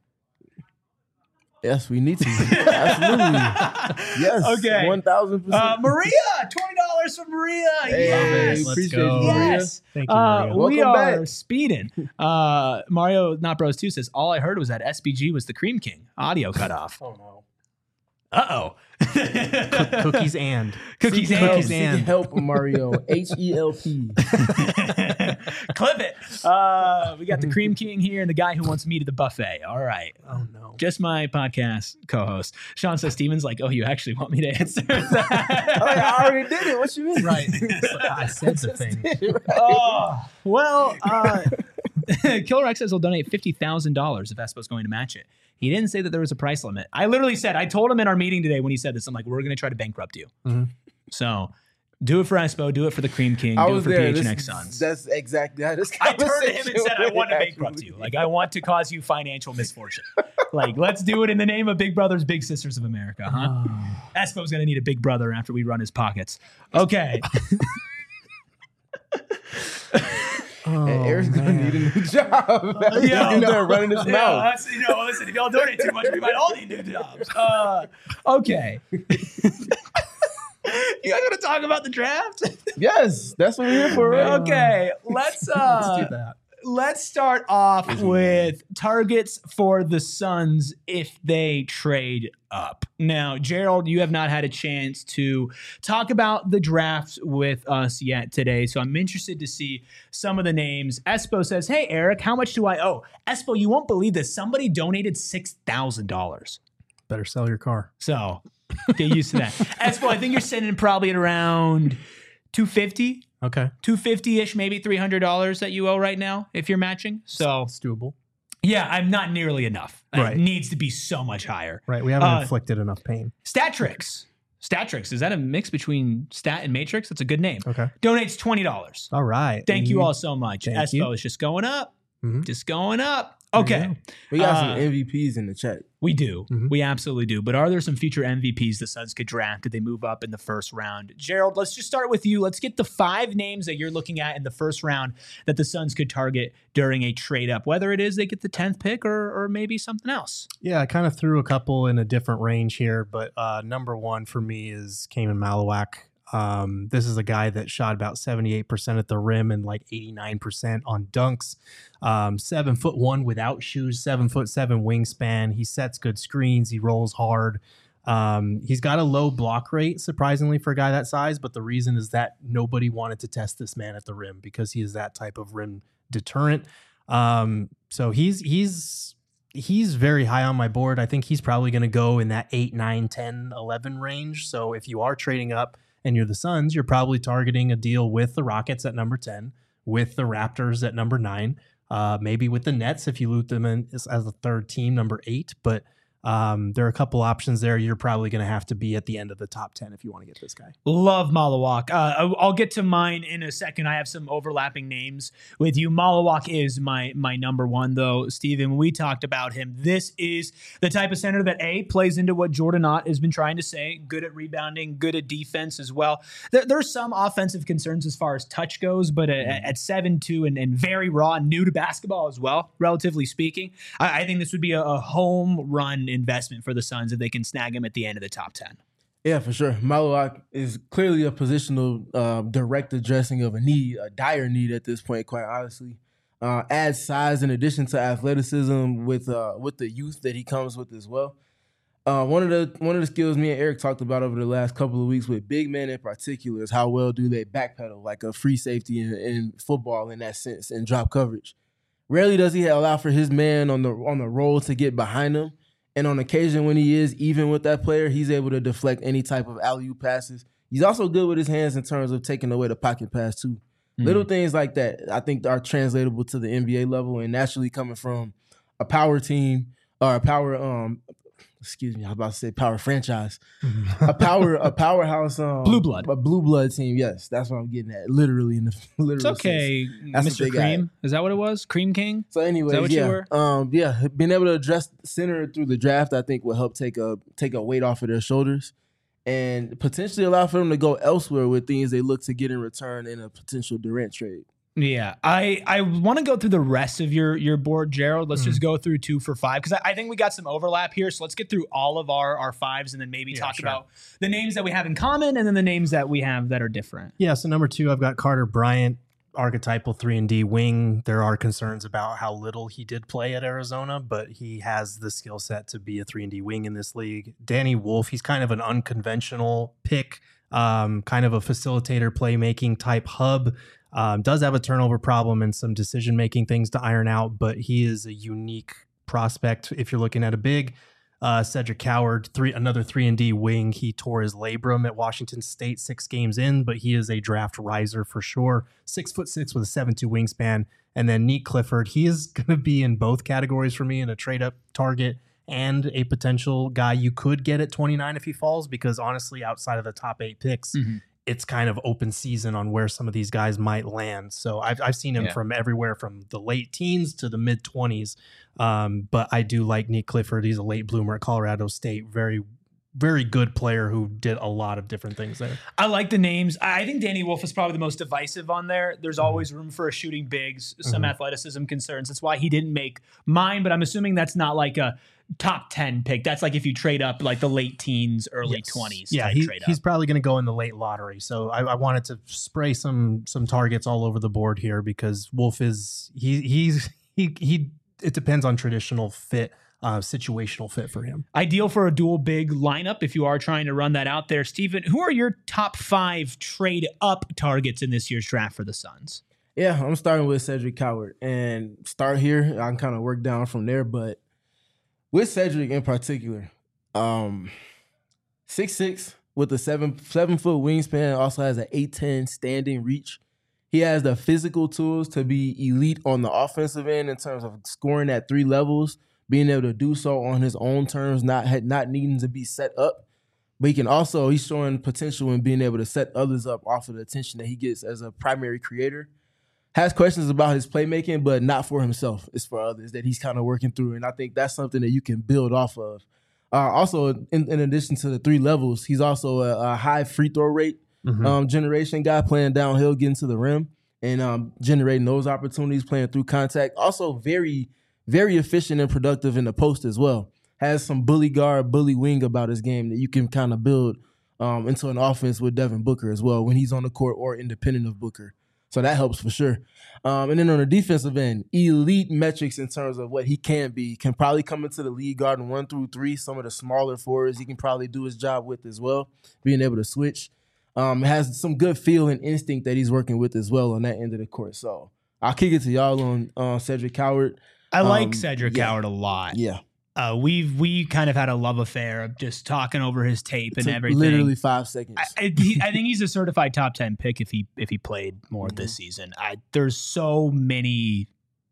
Yes, we need to. Absolutely. Yes. Okay. one thousand percent. Uh Maria, twenty dollars from Maria. Hey, Yes. Let's appreciate go. you, Maria. Yes. Thank you, Uh, Maria. we Welcome are back. speeding. Uh, Mario Not Bros two says, all I heard was that S B G was the Cream King. Audio cut off. Oh, no. Uh-oh. Cookies and. Cookies Seek and. help, Cookies seek and. help, Mario. H E L P. Clip it. Uh, we got the Cream King here and the guy who wants me to the buffet. All right. Oh, no. Just my podcast co-host. Sean says, Steven's like, oh, you actually want me to answer that? Oh, I already did it. What you mean? Right. I said the thing. Oh, well, uh, Killer X says he'll donate fifty thousand dollars if Espo's going to match it. He didn't say that there was a price limit. I literally said, I told him in our meeting today when he said this, I'm like, we're going to try to bankrupt you. Mm-hmm. So do it for Espo, do it for the Cream King, I do it was for there. P H N This- X Suns. That's exactly how this I turned to him and conversation said, I went, want to bankrupt actually. you. Like, I want to cause you financial misfortune. Like, let's do it in the name of Big Brothers, Big Sisters of America, huh? Espo's going to need a big brother after we run his pockets. Okay. Oh, And Eric's gonna man. need a new job. He's Yeah, in no. there running his Yeah, mouth. that's, you know, listen, if y'all donate too much, we might all need new jobs. Uh, okay. You guys want to talk about the draft? Yes, that's what we're here for. Right? Okay, let's uh, Let's do that. let's start off with targets for the Suns if they trade up. Now, Gerald, you have not had a chance to talk about the draft with us yet today, so I'm interested to see some of the names. Espo says, hey, Eric, how much do I owe? Espo, you won't believe this. Somebody donated six thousand dollars. Better sell your car. So get used to that. Espo, I think you're sitting probably at around two fifty. Okay. two fifty-ish, maybe three hundred dollars that you owe right now if you're matching. So, It's doable. yeah, I'm not nearly enough. Right. It needs to be so much higher. Right. We haven't Uh, inflicted enough pain. Statrix. Statrix, is that a mix between Stat and Matrix? That's a good name. Okay. Donates twenty dollars. All right. Thank you all so much. Thank Espo you. is just going up. Mhm. Just going up. There you Okay. go. We got Uh, some M V Ps in the chat. We do. Mhm. We absolutely do. But are there some future M V Ps the Suns could draft? Did they move up in the first round? Gerald, let's just start with you. Let's get the five names that you're looking at in the first round that the Suns could target during a trade up, whether it is they get the tenth pick or, or maybe something else. Yeah, I kind of threw a couple in a different range here, but uh, number one for me is Cayman Malawak. Um, this is a guy that shot about seventy-eight percent at the rim and like eighty-nine percent on dunks. Um, seven foot one without shoes, seven foot seven wingspan. He sets good screens. He rolls hard. Um, he's got a low block rate, surprisingly, for a guy that size. But the reason is that nobody wanted to test this man at the rim because he is that type of rim deterrent. Um, so he's he's he's very high on my board. I think he's probably going to go in that eight, nine, ten, eleven range. So if you are trading up and you're the Suns, you're probably targeting a deal with the Rockets at number ten, with the Raptors at number nine, uh, maybe with the Nets if you loot them in as, as a third team, number eight. But Um, there are a couple options there. You're probably going to have to be at the end of the top ten if you want to get this guy. Love Malawak. Uh, I'll get to mine in a second. I have some overlapping names with you. Malawak is my my number one, though, Steven. When we talked about him, this is the type of center that, A, plays into what Jordan Ott has been trying to say, good at rebounding, good at defense as well. There, there's some offensive concerns as far as touch goes, but at, at seven two and, and very raw, new to basketball as well, relatively speaking, I, I think this would be a, a home run investment for the Suns if they can snag him at the end of the top ten. Yeah, for sure. Malawak is clearly a positional uh, direct addressing of a need, a dire need at this point, quite honestly. Uh, adds size in addition to athleticism with uh, with the youth that he comes with as well. Uh, one of the one of the skills me and Eric talked about over the last couple of weeks with big men in particular is how well do they backpedal, like a free safety in, in football in that sense, and drop coverage. Rarely does he allow for his man on the on the roll to get behind him. And on occasion when he is even with that player, he's able to deflect any type of alley-oop passes. He's also good with his hands in terms of taking away the pocket pass too. Mm-hmm. Little things like that I think are translatable to the N B A level and naturally coming from a power team or a power um excuse me, I was about to say power franchise. a power a powerhouse um blue blood. A blue blood team, yes. That's what I'm getting at. Literally in the literal It's okay, Mister Cream. Is that what it was? Cream King? So anyway, Is that what yeah. you were? Um yeah, being able to address center through the draft, I think will help take a take a weight off of their shoulders and potentially allow for them to go elsewhere with things they look to get in return in a potential Durant trade. Yeah, I, I want to go through the rest of your your board, Gerald. Let's mm. just go through two for five because I, I think we got some overlap here. So let's get through all of our, our fives and then maybe yeah, talk sure. about the names that we have in common and then the names that we have that are different. Yeah, so number two, I've got Carter Bryant, archetypal three and D wing. There are concerns about how little he did play at Arizona, but he has the skill set to be a three and D wing in this league. Danny Wolf, he's kind of an unconventional pick, um, kind of a facilitator, playmaking type hub. Um, does have a turnover problem and some decision-making things to iron out, but he is a unique prospect. If you're looking at a big uh, Cedric Coward, three another three and D wing, he tore his labrum at Washington State six games in, but he is a draft riser for sure. Six foot six with a seven two wingspan. And then Nick Clifford, he is going to be in both categories for me in a trade-up target and a potential guy you could get at twenty-nine if he falls, because honestly, outside of the top eight picks, mm-hmm. it's kind of open season on where some of these guys might land. So I've I've seen him yeah. from everywhere from the late teens to the mid twenties. Um, but I do like Nick Clifford. He's a late bloomer at Colorado State. Very, very good player who did a lot of different things there. I like the names. I think Danny Wolf is probably the most divisive on there. There's always room for a shooting bigs, some mm-hmm. athleticism concerns. That's why he didn't make mine, but I'm assuming that's not like a top ten pick. That's like if you trade up like the late teens, early yes. twenties. Yeah, he, he's probably going to go in the late lottery. So I, I wanted to spray some some targets all over the board here because Wolf is he he's he he. It depends on traditional fit, uh, situational fit for him. Ideal for a dual big lineup if you are trying to run that out there. Steven, who are your top five trade up targets in this year's draft for the Suns? Yeah, I'm starting with Cedric Coward and start here. I can kind of work down from there, but with Cedric in particular, um, six six with a seven seven foot wingspan, also has an eight ten standing reach. He has the physical tools to be elite on the offensive end in terms of scoring at three levels, being able to do so on his own terms, not not needing to be set up. But he can also, he's showing potential in being able to set others up off of the attention that he gets as a primary creator. Has questions about his playmaking, but not for himself. It's for others that he's kind of working through. And I think that's something that you can build off of. Uh, also, in, in addition to the three levels, he's also a, a high free throw rate mm-hmm. um, generation guy, playing downhill, getting to the rim, and um, generating those opportunities, playing through contact. Also very, very efficient and productive in the post as well. Has some bully guard, bully wing about his game that you can kind of build um, into an offense with Devin Booker as well when he's on the court or independent of Booker. So that helps for sure. Um, and then on the defensive end, elite metrics in terms of what he can be. Can probably come into the league guarding one through three. Some of the smaller forwards he can probably do his job with as well, being able to switch. Um, has some good feel and instinct that he's working with as well on that end of the court. So I'll kick it to y'all on uh, Cedric Coward. I like um, Cedric yeah. Coward a lot. Yeah. Uh, we've we kind of had a love affair of just talking over his tape and everything. Literally five seconds. I, I, he, I think he's a certified top ten pick if he if he played more mm-hmm. this season. I, there's so many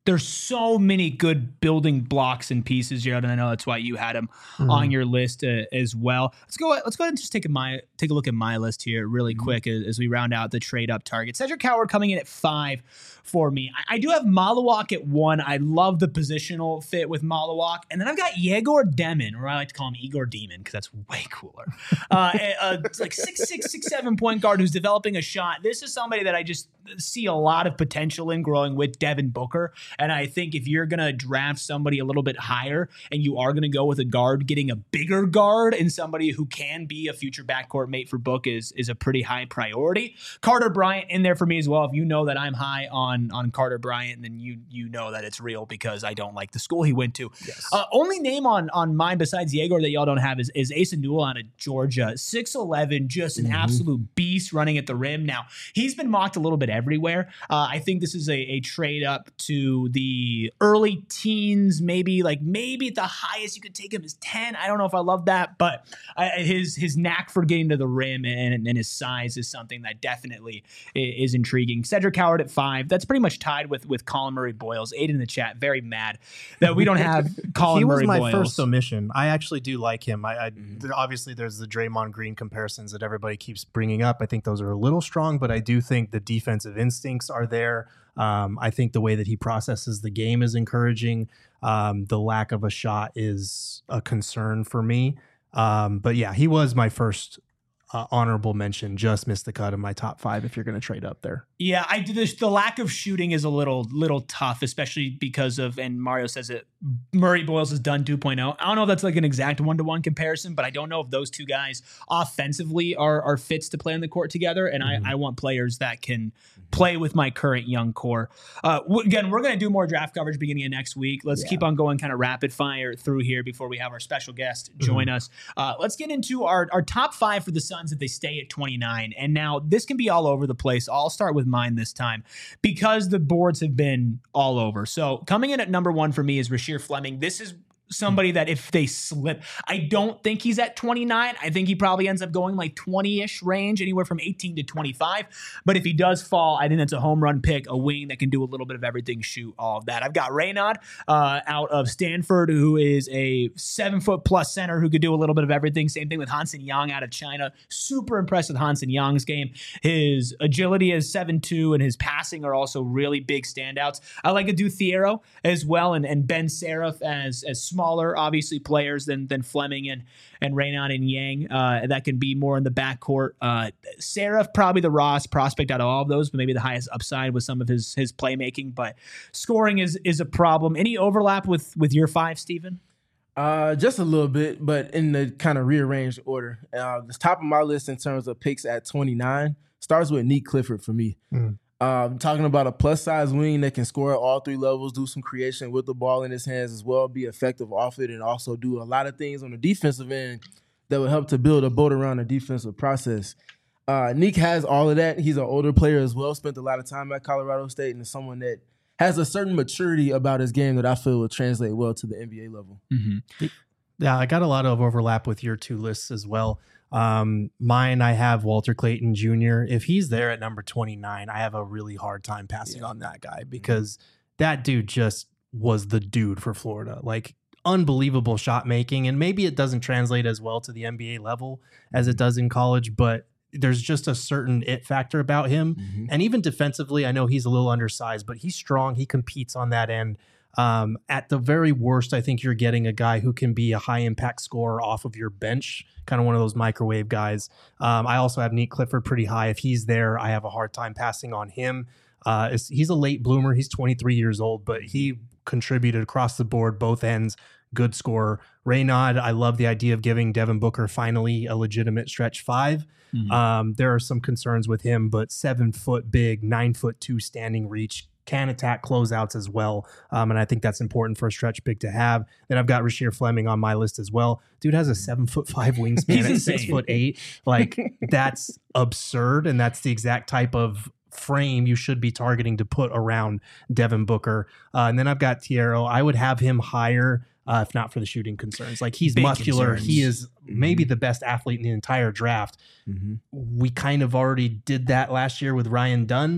there's so many good building blocks and pieces here, and I know that's why you had him mm-hmm. on your list uh, as well. Let's go. Let's go ahead and just take a my take a look at my list here really mm-hmm. quick as, as we round out the trade up target. Cedric Howard coming in at five for me. I, I do have Malawak at one. I love the positional fit with Malawak, and then I've got Yegor Demon, or I like to call him Igor Demon because that's way cooler. uh, uh, it's like six six six seven point guard who's developing a shot. This is somebody that I just see a lot of potential in growing with Devin Booker. And I think if you're going to draft somebody a little bit higher and you are going to go with a guard, getting a bigger guard and somebody who can be a future backcourt mate for Book is, is a pretty high priority. Carter Bryant in there for me as well. If you know that I'm high on, on Carter Bryant, then you you know that it's real because I don't like the school he went to. Yes. Uh, only name on, on mine besides Yegor that y'all don't have is, is Asa Newell out of Georgia. six eleven, just an mm-hmm. absolute beast running at the rim. Now, he's been mocked a little bit everywhere. Uh, I think this is a, a trade up to the early teens, maybe like maybe at the highest you could take him is ten. I don't know if I love that, but uh, his his knack for getting to the rim and, and his size is something that definitely is intriguing. Cedric Howard at five. That's pretty much tied with with Colin Murray Boyles. Eight in the chat, very mad that we don't have Colin he Murray was my Boyles. First omission. I actually do like him. I, I mm-hmm. obviously there's the Draymond Green comparisons that everybody keeps bringing up. I think those are a little strong, but I do think the defensive instincts are there. Um, I think the way that he processes the game is encouraging. Um, the lack of a shot is a concern for me. Um, but yeah, he was my first uh, honorable mention. Just missed the cut in my top five if you're going to trade up there. Yeah, I did this. The lack of shooting is a little little tough, especially because of, and Mario says it, Murray Boyles has done two point oh. I don't know if that's like an exact one-to-one comparison, but I don't know if those two guys offensively are are fits to play on the court together, and mm-hmm. I, I want players that can play with my current young core. Uh, w- again, we're going to do more draft coverage beginning of next week. Let's yeah. keep on going kind of rapid fire through here before we have our special guest join mm-hmm. us. Uh, let's get into our, our top five for the Suns if they stay at twenty-nine. And now this can be all over the place. I'll start with mine this time because the boards have been all over. So coming in at number one for me is Rasheer Fleming. This is somebody that if they slip, I don't think he's at twenty-nine. I think he probably ends up going like twenty-ish range, anywhere from eighteen to twenty-five. But if he does fall, I think that's a home run pick, a wing that can do a little bit of everything, shoot, all of that. I've got Reynaud uh, out of Stanford, who is a seven foot plus center who could do a little bit of everything. Same thing with Hansen Yang out of China. Super impressed with Hansen Yang's game. His agility is seven two and his passing are also really big standouts. I like Adu Thiero as well, and, and Ben Seraph as as smaller, obviously, players than than Fleming and and Reynaud and Yang uh, that can be more in the backcourt. Uh, Seraph, probably the rawest prospect out of all of those, but maybe the highest upside with some of his his playmaking. But scoring is is a problem. Any overlap with with your five, Stephen? Uh, just a little bit, but in the kind of rearranged order. Uh, the top of my list in terms of picks at twenty-nine starts with Neek Clifford for me. Mm. Um, talking about a plus-size wing that can score at all three levels, do some creation with the ball in his hands as well, be effective off it, and also do a lot of things on the defensive end that will help to build a boat around the defensive process. Uh, Neek has all of that. He's an older player as well, spent a lot of time at Colorado State, and is someone that has a certain maturity about his game that I feel will translate well to the N B A level. Mm-hmm. Yeah, I got a lot of overlap with your two lists as well. Um, mine, I have Walter Clayton Junior If he's there at number twenty-nine, I have a really hard time passing yeah. on that guy because that dude just was the dude for Florida. Like, unbelievable shot making, and maybe it doesn't translate as well to the N B A level as it does in college, but there's just a certain it factor about him. Mm-hmm. And even defensively, I know he's a little undersized, but he's strong. He competes on that end. Um, at the very worst, I think you're getting a guy who can be a high impact scorer off of your bench, kind of one of those microwave guys. Um, I also have Neek Clifford pretty high. If he's there, I have a hard time passing on him. Uh, he's a late bloomer. He's twenty-three years old, but he contributed across the board, both ends. Good scorer. Reynaud, I love the idea of giving Devin Booker finally a legitimate stretch five. Mm-hmm. Um, there are some concerns with him, but seven foot big, nine foot two standing reach, can attack closeouts as well. Um, and I think that's important for a stretch big to have. Then I've got Rasheer Fleming on my list as well. Dude has a seven foot five wingspan at six foot eight. Like, that's absurd. And that's the exact type of frame you should be targeting to put around Devin Booker. Uh, and then I've got Thiero. I would have him higher. Uh, if not for the shooting concerns. Like, he's Big muscular. Concerns. He is maybe mm-hmm. the best athlete in the entire draft. Mm-hmm. We kind of already did that last year with Ryan Dunn. Mm-hmm.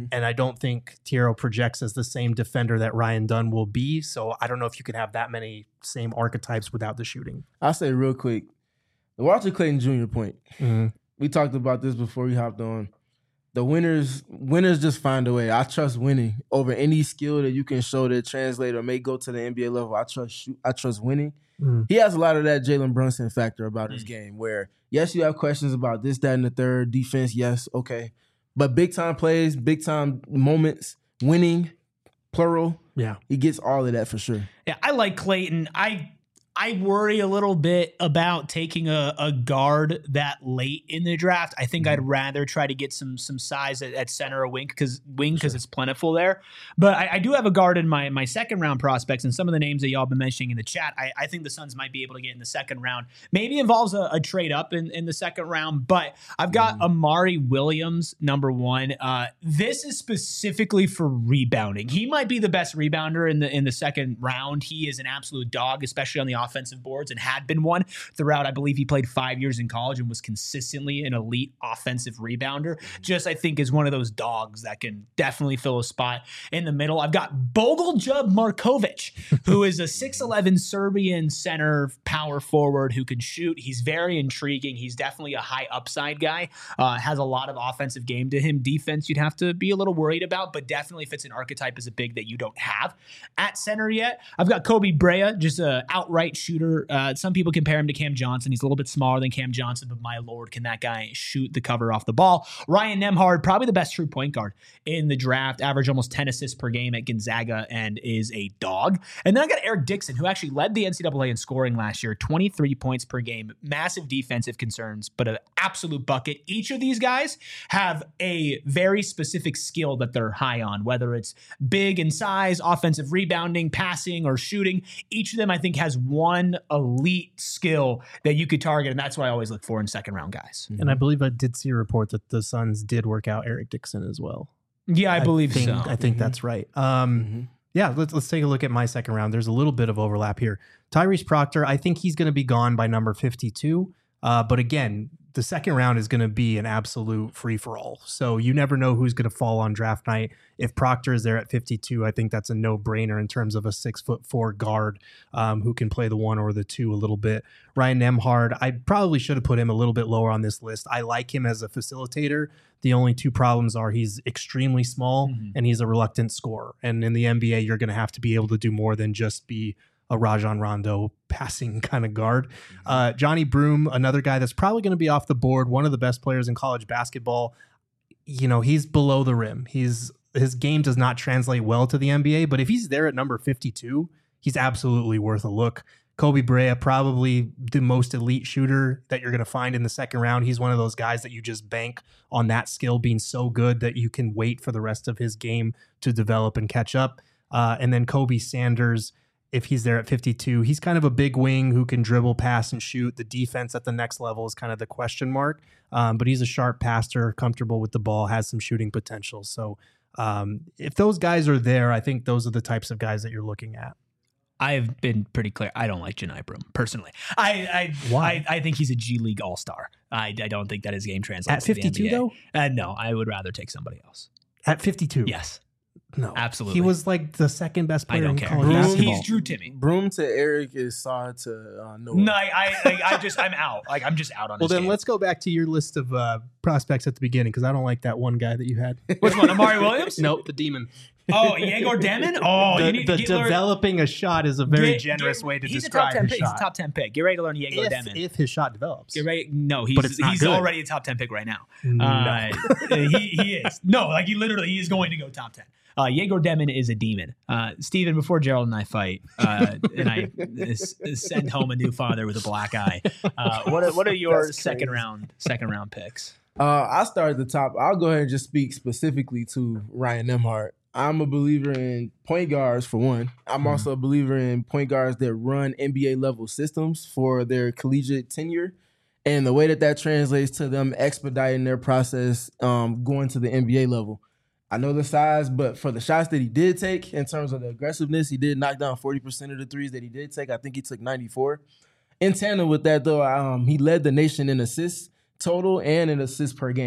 Mm-hmm. And I don't think Thiero projects as the same defender that Ryan Dunn will be. So I don't know if you can have that many same archetypes without the shooting. I'll say real quick, the Walter Clayton Junior point. Mm-hmm. We talked about this before we hopped on. The winners, winners just find a way. I trust winning over any skill that you can show that translate or may go to the N B A level. I trust shoot, I trust winning. Mm. He has a lot of that Jalen Brunson factor about mm. his game where, yes, you have questions about this, that, and the third. Defense, yes, okay. But big-time plays, big-time moments, winning, plural, yeah, he gets all of that for sure. Yeah, I like Clayton. I I worry a little bit about taking a, a guard that late in the draft. I think mm-hmm. I'd rather try to get some some size at, at center or wing because wing because sure. it's plentiful there. But I, I do have a guard in my my second round prospects, and some of the names that y'all been mentioning in the chat, I, I think the Suns might be able to get in the second round. Maybe involves a, a trade up in, in the second round, but I've got mm-hmm. Amari Williams, number one. Uh, this is specifically for rebounding. He might be the best rebounder in the in the second round. He is an absolute dog, especially on the offensive boards, and had been one throughout. I believe he played five years in college and was consistently an elite offensive rebounder. Just, I think, is one of those dogs that can definitely fill a spot in the middle. I've got Bogoljub Markovic, who is a six eleven Serbian center power forward who can shoot. He's very intriguing. He's definitely a high upside guy. Uh, has a lot of offensive game to him. Defense, you'd have to be a little worried about, but definitely fits an archetype as a big that you don't have at center yet. I've got Kobe Brea, just an outright shooter. Uh, some people compare him to Cam Johnson. He's a little bit smaller than Cam Johnson, but my Lord, can that guy shoot the cover off the ball? Ryan Nembhard, probably the best true point guard in the draft, average almost ten assists per game at Gonzaga and is a dog. And then I got Eric Dixon, who actually led the N C double A in scoring last year, twenty-three points per game, massive defensive concerns, but an absolute bucket. Each of these guys have a very specific skill that they're high on, whether it's big in size, offensive rebounding, passing, or shooting. Each of them, I think, has one One elite skill that you could target, and that's what I always look for in second round guys. And I believe I did see a report that the Suns did work out Eric Dixon as well. Yeah, I, I believe think, so. I think mm-hmm. that's right. Um, mm-hmm. Yeah, let's let's take a look at my second round. There's a little bit of overlap here. Tyrese Proctor, I think he's going to be gone by number fifty-two. Uh, but again, the second round is going to be an absolute free-for-all. So you never know who's going to fall on draft night. If Proctor is there at fifty-two, I think that's a no-brainer in terms of a six-foot-four guard um, who can play the one or the two a little bit. Ryan Nembhard, I probably should have put him a little bit lower on this list. I like him as a facilitator. The only two problems are he's extremely small mm-hmm. and he's a reluctant scorer. And in the N B A, you're going to have to be able to do more than just be a Rajon Rondo passing kind of guard. Uh, Johnny Broome, another guy that's probably going to be off the board, one of the best players in college basketball. You know, he's below the rim. He's his game does not translate well to the N B A, but if he's there at number fifty-two, he's absolutely worth a look. Kobe Brea, probably the most elite shooter that you're going to find in the second round. He's one of those guys that you just bank on that skill being so good that you can wait for the rest of his game to develop and catch up. Uh, and then Kobe Sanders, if he's there at fifty-two, he's kind of a big wing who can dribble, pass, and shoot. The defense at the next level is kind of the question mark. Um, but he's a sharp passer, comfortable with the ball, has some shooting potential. So um, if those guys are there, I think those are the types of guys that you're looking at. I've been pretty clear. I don't like Janai Broome, personally. I I, Why? I I think he's a G League All-Star. I, I don't think that his game translates at fifty-two, to the though? Uh, no, I would rather take somebody else. At fifty-two? Yes. No, absolutely. He was like the second best player I don't in care. college He's, basketball. he's Drew Timme. Broome to Eric is Saw to uh, Noah. No, I, I, I just, I'm out. Like, I'm just out on. Well, this then game. let's go back to your list of uh, prospects at the beginning because I don't like that one guy that you had. Which one, Amari Williams? Nope, the Demon. Oh, Yegor Demon? Oh, the, you need the to get developing learn, a shot is a very get, generous get, way to he's describe a top ten his pick. shot. He's a top ten pick. Get ready to learn Yegor if, Demon. If his shot develops. Get ready. No, he's, but it's not he's good. already a top ten pick right now. No. Uh, he, he is. No, like he literally he is going to go top ten. Uh, Yegor Demon is a demon. Uh, Steven, before Gerald and I fight, uh, and I s- send home a new father with a black eye, uh, what are, what are your second round second round picks? Uh, I'll start at the top. I'll go ahead and just speak specifically to Ryan Nembhard. I'm a believer in point guards, for one. I'm mm-hmm. also a believer in point guards that run N B A-level systems for their collegiate tenure. And the way that that translates to them expediting their process um, going to the N B A level. I know the size, but for the shots that he did take, in terms of the aggressiveness, he did knock down forty percent of the threes that he did take. I think he took ninety-four. In tandem with that, though, um, he led the nation in assists total and in assists per game.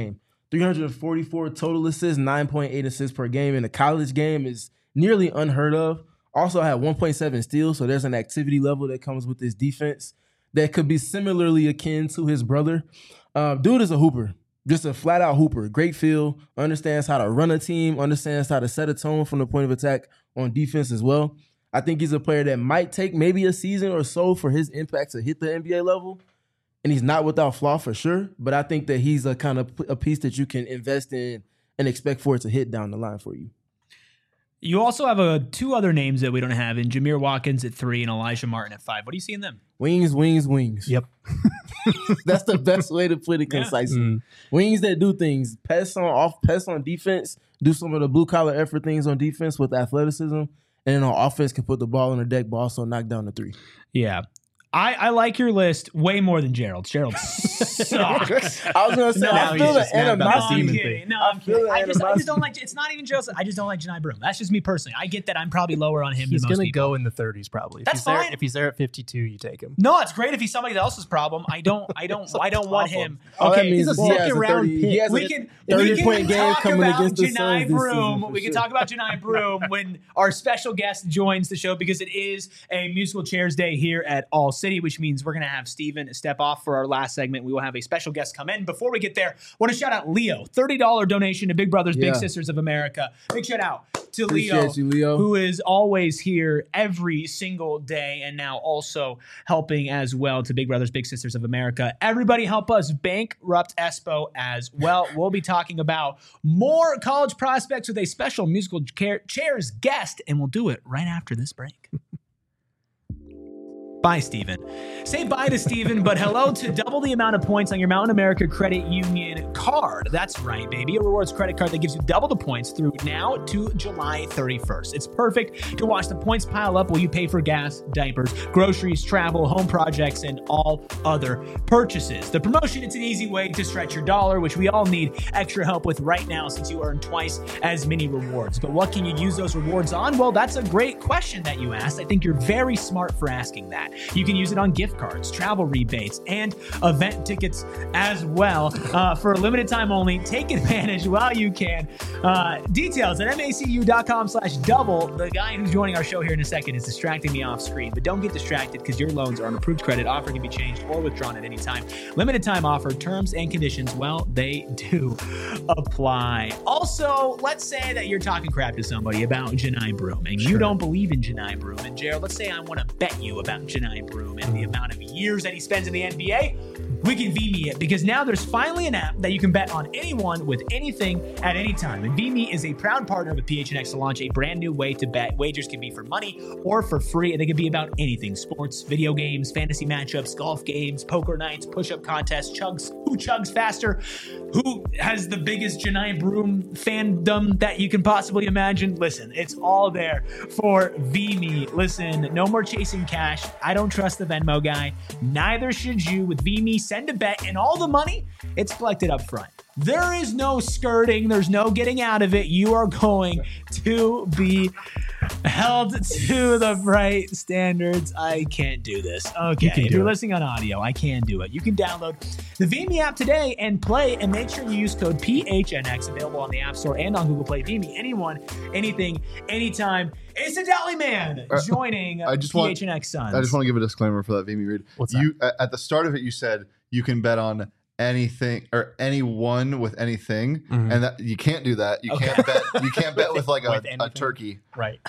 three hundred forty-four total assists, nine point eight assists per game in a college game is nearly unheard of. Also had one point seven steals, so there's an activity level that comes with this defense that could be similarly akin to his brother. Uh, dude is a hooper, just a flat-out hooper. Great feel, understands how to run a team, understands how to set a tone from the point of attack on defense as well. I think he's a player that might take maybe a season or so for his impact to hit the N B A level, and he's not without flaw for sure, but I think that he's a kind of a piece that you can invest in and expect for it to hit down the line for you. You also have uh, two other names that we don't have in Jameer Watkins at three and Elijah Martin at five. What do you see in them? Wings, wings, wings. Yep. That's the best way to put it concisely. Yeah. Mm. Wings that do things. Pass on off, pass on defense, do some of the blue collar effort things on defense with athleticism, and then on offense can put the ball on the deck, but also knock down the three. Yeah. I, I like your list way more than Gerald's. Gerald sucks. I was going to say, no, I feel the animosity. No, I'm kidding. No, I'm kidding. I just, I just don't like, it's not even Gerald. I just don't like Johni Broome. That's just me personally. I get that I'm probably lower on him he's than most gonna people. He's going to go in the thirties probably. If That's he's fine. There, if he's there at fifty-two, you take him. No, it's great if he's somebody else's problem. I don't, I don't, I don't want him. All okay, he's a second round pick. He has we a can, thirty we can point game talk coming about against the Johni Suns Broome. this We season, can talk about Johni Broome when our special guest joins the show because it is a musical chairs day here at All City, which means we're going to have Steven step off for our last segment. We will have a special guest come in. Before we get there, I want to shout out Leo. thirty dollars donation to Big Brothers yeah. Big Sisters of America. Big shout out to Appreciate Leo, you, Leo, who is always here every single day and now also helping as well to Big Brothers Big Sisters of America. Everybody help us bankrupt Espo as well. We'll be talking about more college prospects with a special musical chairs guest, and we'll do it right after this break. Bye, Steven. Say bye to Steven, but hello to double the amount of points on your Mountain America Credit Union card. That's right, baby. A rewards credit card that gives you double the points through now to July thirty-first. It's perfect to watch the points pile up while you pay for gas, diapers, groceries, travel, home projects, and all other purchases. The promotion, it's an easy way to stretch your dollar, which we all need extra help with right now since you earn twice as many rewards. But what can you use those rewards on? Well, that's a great question that you asked. I think you're very smart for asking that. You can use it on gift cards, travel rebates, and event tickets as well. Uh, for a limited time only, take advantage while you can. Uh, details at macu.com slash double. The guy who's joining our show here in a second is distracting me off screen, but don't get distracted because your loans are on approved credit. Offer can be changed or withdrawn at any time. Limited time offer, terms and conditions, well, they do apply. Also, let's say that you're talking crap to somebody about Johni Broome and Sure. you don't believe in Johni Broome. And Gerald, let's say I want to bet you about Johni Broome and the amount of years that he spends in the N B A. We can V M E it because now there's finally an app that you can bet on anyone with anything at any time. And V M E is a proud partner with P H N X to launch a brand new way to bet. Wagers can be for money or for free, and they can be about anything: sports, video games, fantasy matchups, golf games, poker nights, push-up contests, chugs, who chugs faster, who has the biggest Johni Broome fandom that you can possibly imagine. Listen, it's all there for V M E. Listen, no more chasing cash. I don't trust the Venmo guy. Neither should you. With V M E, send a bet, and all the money, it's collected up front. There is no skirting. There's no getting out of it. You are going to be held to the right standards. I can't do this. Okay, You if you're it. listening on audio, I can do it. You can download the V M E app today and play, and make sure you use code P H N X, available on the App Store and on Google Play. V M E, anyone, anything, anytime. Incidentally, man, joining I just P want- H N X Suns. I just want to give a disclaimer for that V M E read. What's you at at the start of it, you said you can bet on anything or anyone with anything, Mhm. and that you can't do that. You Okay. can't bet. You can't bet with like a, With a anything. turkey. Right.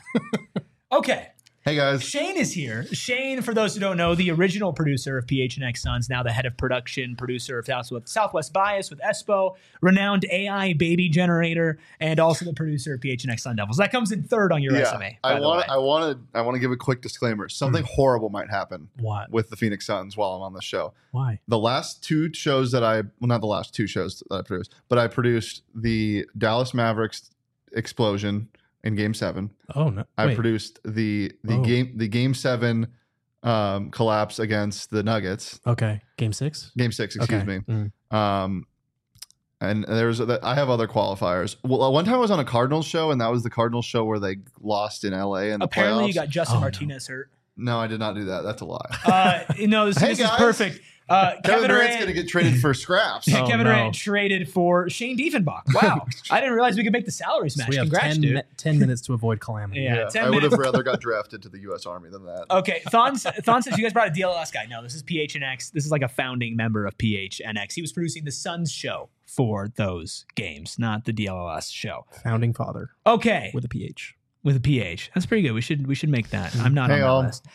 Okay. Hey guys, Shane is here. Shane, for those who don't know, the original producer of P H N X Suns, now the head of production, producer of Southwest, Southwest Bias with Espo, renowned A I baby generator, and also the producer of P H N X Sun Devils. That comes in third on your resume. by I the want. way. I want to. I want to give a quick disclaimer. Something horrible might happen What? with the Phoenix Suns while I'm on the show. Why? The last two shows that I, well, not the last two shows that I produced, but I produced the Dallas Mavericks explosion in Game Seven. Oh no. I Wait. produced the the Oh. game the Game Seven um, collapse against the Nuggets. Okay. Game six. Game Six, excuse Okay. me. Mm. Um, and there's I have other qualifiers. Well, one time I was on a Cardinals show, and that was the Cardinals show where they lost in L A in the Apparently, playoffs. you got Justin Oh, no. Martinez hurt. No, I did not do that. That's a lie. Uh, no, this, Hey, this is guys. perfect. Uh, Kevin Kevin Durant's Durant, going to get traded for scraps. Oh, Kevin no. Durant traded for Shane Diefenbach. Wow. I didn't realize we could make the salary smash. So we have Congrats, ten, dude. mi- ten minutes to avoid calamity. Yeah, Yeah, ten I would have minutes. rather got drafted to the U S Army than that. Okay, Thon, Thon says you guys brought a D L L S guy. No, this is P H N X. This is like a founding member of P H N X. He was producing the Suns show for those games, not the D L L S show. Founding father Okay, with a P H. with a P H. That's pretty good. We should we should make that. I'm not Hey, on all. that list.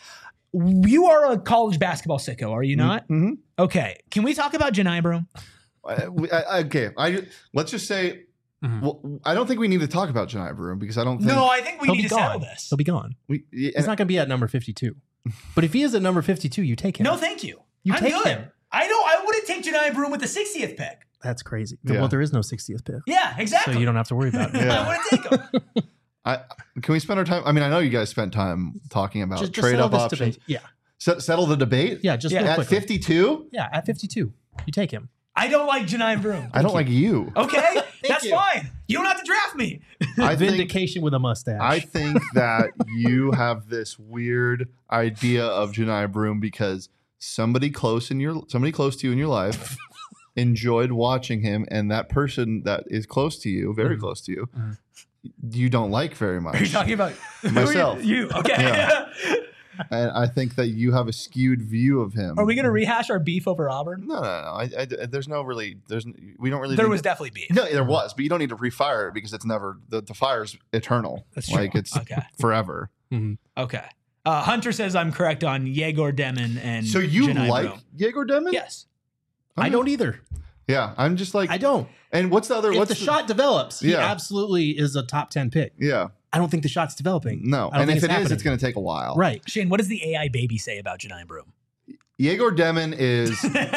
You are a college basketball sicko, are you not? Mm-hmm. Okay. Can we talk about Janai Broom? I, we- I, okay, I let's just say. Mhm. Well, I don't think we need to talk about Janai Broom because I don't think No, I think we He'll need be to settle gone. this. He'll be gone. we. yeah, He's not going to be at number fifty-two. But if he is at number fifty-two, you take him. No, thank you. You I'm take good. him. I know. I wouldn't take Janai Broom with the sixtieth pick. That's crazy. Yeah. Well, there is no sixtieth pick. Yeah, exactly. So you don't have to worry about it. Yeah. I wouldn't take him. I, can we spend our time? I mean, I know you guys spent time talking about Just, just trade settle up this options. debate. Yeah. Se- settle the debate. Yeah. Just Yeah, real At quickly. fifty-two, Yeah. At fifty-two, you take him. I don't like Janai Broom. I don't like you. Okay, that's you. fine. You don't have to draft me. I think Vindication with a mustache. I think that you have this weird idea of Janai Broom because somebody close in your somebody close to you in your life enjoyed watching him, and that person that is close to you, very Mhm. close to you, Mhm. you don't like very much. Are you talking about Myself. You, you. Okay. Yeah. And I think that you have a skewed view of him. Are we gonna rehash our beef over Auburn? No, no, no. I, I, there's no really. There's we don't really. There need was to- definitely beef. No, there was, but you don't need to refire it because it's never the, the fire's eternal. That's true. Like it's Okay. forever. Okay. Uh, Hunter says I'm correct on Yegor Demon and. So you Janai like Broom. Yegor Demon? Yes. I don't either. Yeah, I'm just like. I don't. And what's the other? If what's the, shot develops, he Yeah. absolutely is a top ten pick. Yeah, I don't think the shot's developing. no. I don't And think if it's it is, happening. it's going to take a while. Right. Shane, what does the A I baby say about Janai Broom? Yegor Demon is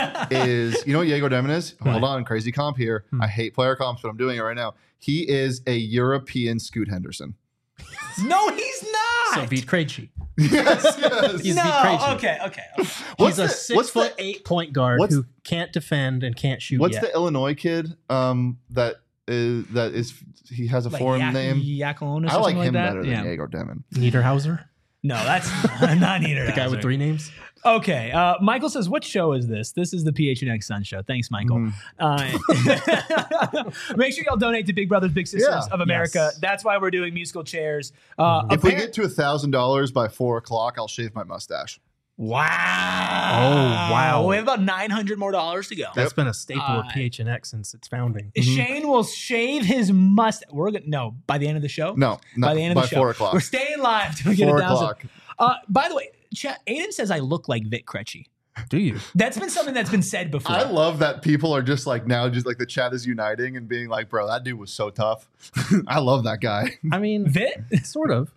is you know what Yegor Demon is? What? Hold on, crazy comp here. Hmm. I hate player comps, but I'm doing it right now. He is a European Scoot Henderson. No, he's not. So beat Krejci. yes, yes. He's no. beat Krejci. Okay. Okay. What's He's a the- six what's foot the- eight point guard what's- who can't defend and can't shoot What's yet. the Illinois kid um, that is that is he has a Like foreign Yak- name? Yakalonis I or like something him that? better than Yeah. Yegor Demon. Niederhauser? No, that's not neither. The guy with three names? Okay. Uh, Michael says, what show is this? This is the P H N X Sun Show. Thanks, Michael. Mhm. Uh, make sure y'all donate to Big Brothers Big Sisters Yeah. of America. Yes. That's why we're doing musical chairs. Uh, If we appar- get to a thousand dollars by four o'clock, I'll shave my mustache. wow. Oh, wow. We have about nine hundred more dollars to go. That's been a staple Uh, of P H N X since its founding. Shane will shave his mustache. We're gonna no by the end of the show. No, not by the end of by the show. four o'clock. We're staying live till we get Four a thousand. o'clock. Uh, by the way, Ch- Aiden says I look like Vic Krejci. Do you? That's been something that's been said before. I love that people are just like now, just like the chat is uniting and being like, "Bro, that dude was so tough." I love that guy. I mean, Vic? sort of.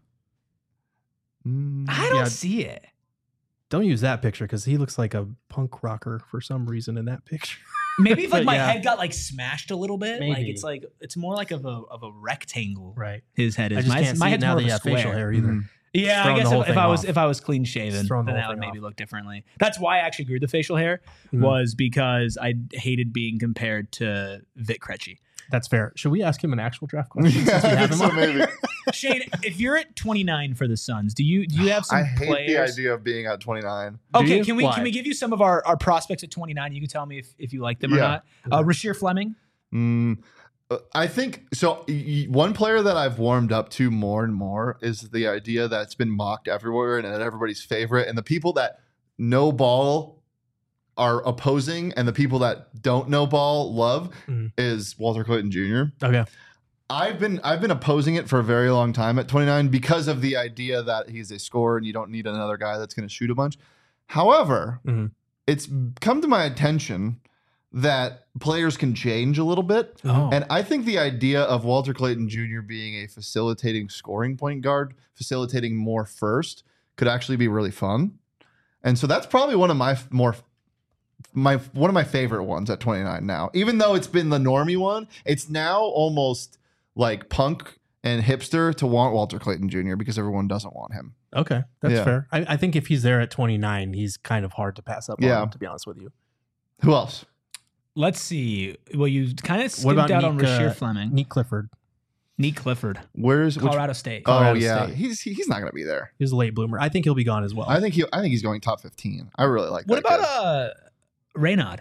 I don't Yeah. see it. Don't use that picture because he looks like a punk rocker for some reason in that picture. Maybe if like But my yeah. head got like smashed a little bit, like Maybe. it's like it's more like of a of a rectangle. Right. His head is. I just my can't my see it head's now more that of you a have facial square. hair either. Mhm. Yeah, I throwing guess the whole if, if thing I was off. if I was clean shaven, Just throwing the then whole that would thing maybe off. look differently. That's why I actually grew the facial hair Mhm. was because I hated being compared to Vic Krejci. That's fair. Should we ask him an actual draft question since we I have think him so, on? maybe. Shane, if you're at twenty-nine for the Suns, do you do you have some I hate players? the idea of being at twenty-nine. Do Okay, you? can we Why? can we give you some of our, our prospects at twenty-nine? You can tell me if, if you like them or Yeah. not. Uh, Rasheer Fleming. Mm, uh, I think so. Y- y- one player that I've warmed up to more and more is the idea that's been mocked everywhere and everybody's favorite, and the people that know ball are opposing, and the people that don't know ball love Mhm. is Walter Clayton Junior Okay. I've been I've been opposing it for a very long time at twenty-nine because of the idea that he's a scorer and you don't need another guy that's going to shoot a bunch. However, Mhm. it's come to my attention that players can change a little bit. Oh. And I think the idea of Walter Clayton Junior being a facilitating scoring point guard, facilitating more first, could actually be really fun. And so that's probably one of my f- more my one of my favorite ones at twenty-nine now. Even though it's been the normie one, it's now almost like punk and hipster to want Walter Clayton Junior because everyone doesn't want him. Okay. That's Yeah. fair. I, I think if he's there at twenty-nine, he's kind of hard to pass up Yeah. on, to be honest with you. Who else? Let's see. Well, you kind of What skipped about out on Nick, Rasheer uh, Fleming. Nick Clifford. Nick Clifford, Where's Colorado which, State. Oh Colorado yeah, State. he's he, he's not gonna be there. He's a late bloomer. I think he'll be gone as well. I think he I think he's going top fifteen. I really like What that about kid. uh Reynaud?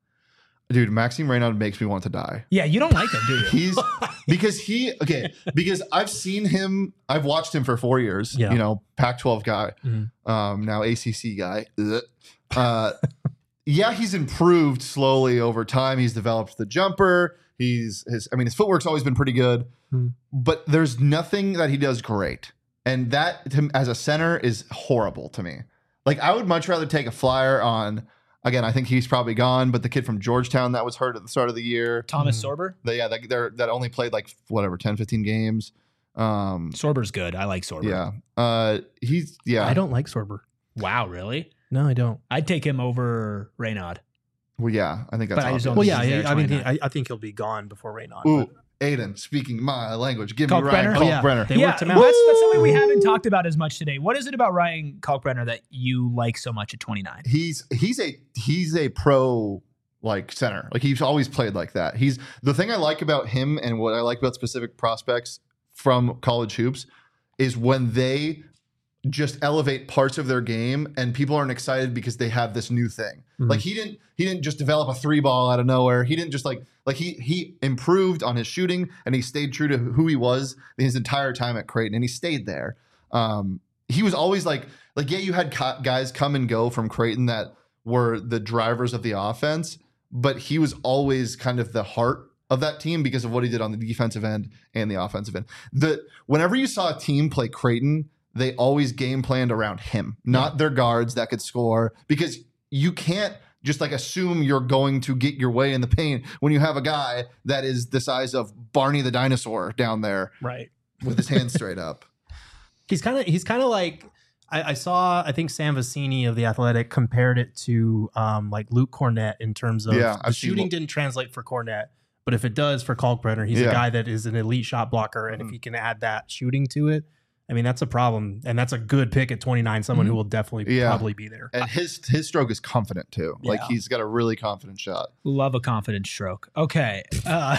Dude, Maxime Reynaud makes me want to die. Yeah, you don't like him, do you? He's because he okay because I've seen him. I've watched him for four years. Yeah. You know, Pac twelve guy, Mhm. um, now A C C guy. Ugh. Uh, yeah, he's improved slowly over time. He's developed the jumper. He's his. I mean, his footwork's always been pretty good, Mhm. but there's nothing that he does great, and that to, as a center is horrible to me. Like I would much rather take a flyer on. Again, I think he's probably gone, but the kid from Georgetown that was hurt at the start of the year. Thomas Mm. Sorber. They, yeah, that, they're, that only played like whatever, ten, fifteen games. Um, Sorber's good. I like Sorber. yeah. Uh, he's, yeah. I don't like Sorber. Wow, really? No, I don't. I'd take him over Reynaud. Well, yeah, I think that's But I just obvious. don't Well, think yeah, he's there I, at I mean, twenty-nine. I, I think he'll be gone before Reynaud. Ooh, but- Aiden, speaking my language. Give Kalkbrenner? me Ryan Oh, yeah. Kalkbrenner. They yeah, worked him that's, out. that's something we haven't talked about as much today. What is it about Ryan Kalkbrenner that you like so much at twenty-nine? He's he's a he's a pro like center. Like he's always played like that. He's the thing I like about him and what I like about specific prospects from college hoops is when they just elevate parts of their game and people aren't excited because they have this new thing. Mhm. Like he didn't he didn't just develop a three ball out of nowhere. He didn't just like like he he improved on his shooting and he stayed true to who he was his entire time at Creighton and he stayed there. Um, he was always like like yeah, you had co- guys come and go from Creighton that were the drivers of the offense, but he was always kind of the heart of that team because of what he did on the defensive end and the offensive end. The whenever you saw a team play Creighton, they always game planned around him, not their guards that could score, because you can't just like assume you're going to get your way in the paint when you have a guy that is the size of Barney the dinosaur down there Right. with his hands straight up. He's kind of he's kind of like I, I saw I think Sam Vecini of the Athletic compared it to um, like Luke Cornett in terms of Yeah, the I've seen shooting Lu- didn't translate for Cornett, but if it does for Kalkbrenner, he's Yeah. a guy that is an elite shot blocker, and Mhm. if he can add that shooting to it, I mean that's a problem, and that's a good pick at twenty-nine, someone Mhm. who will definitely Yeah. probably be there. And his his stroke is confident too. Like Yeah. he's got a really confident shot. Love a confident stroke. Okay. Uh,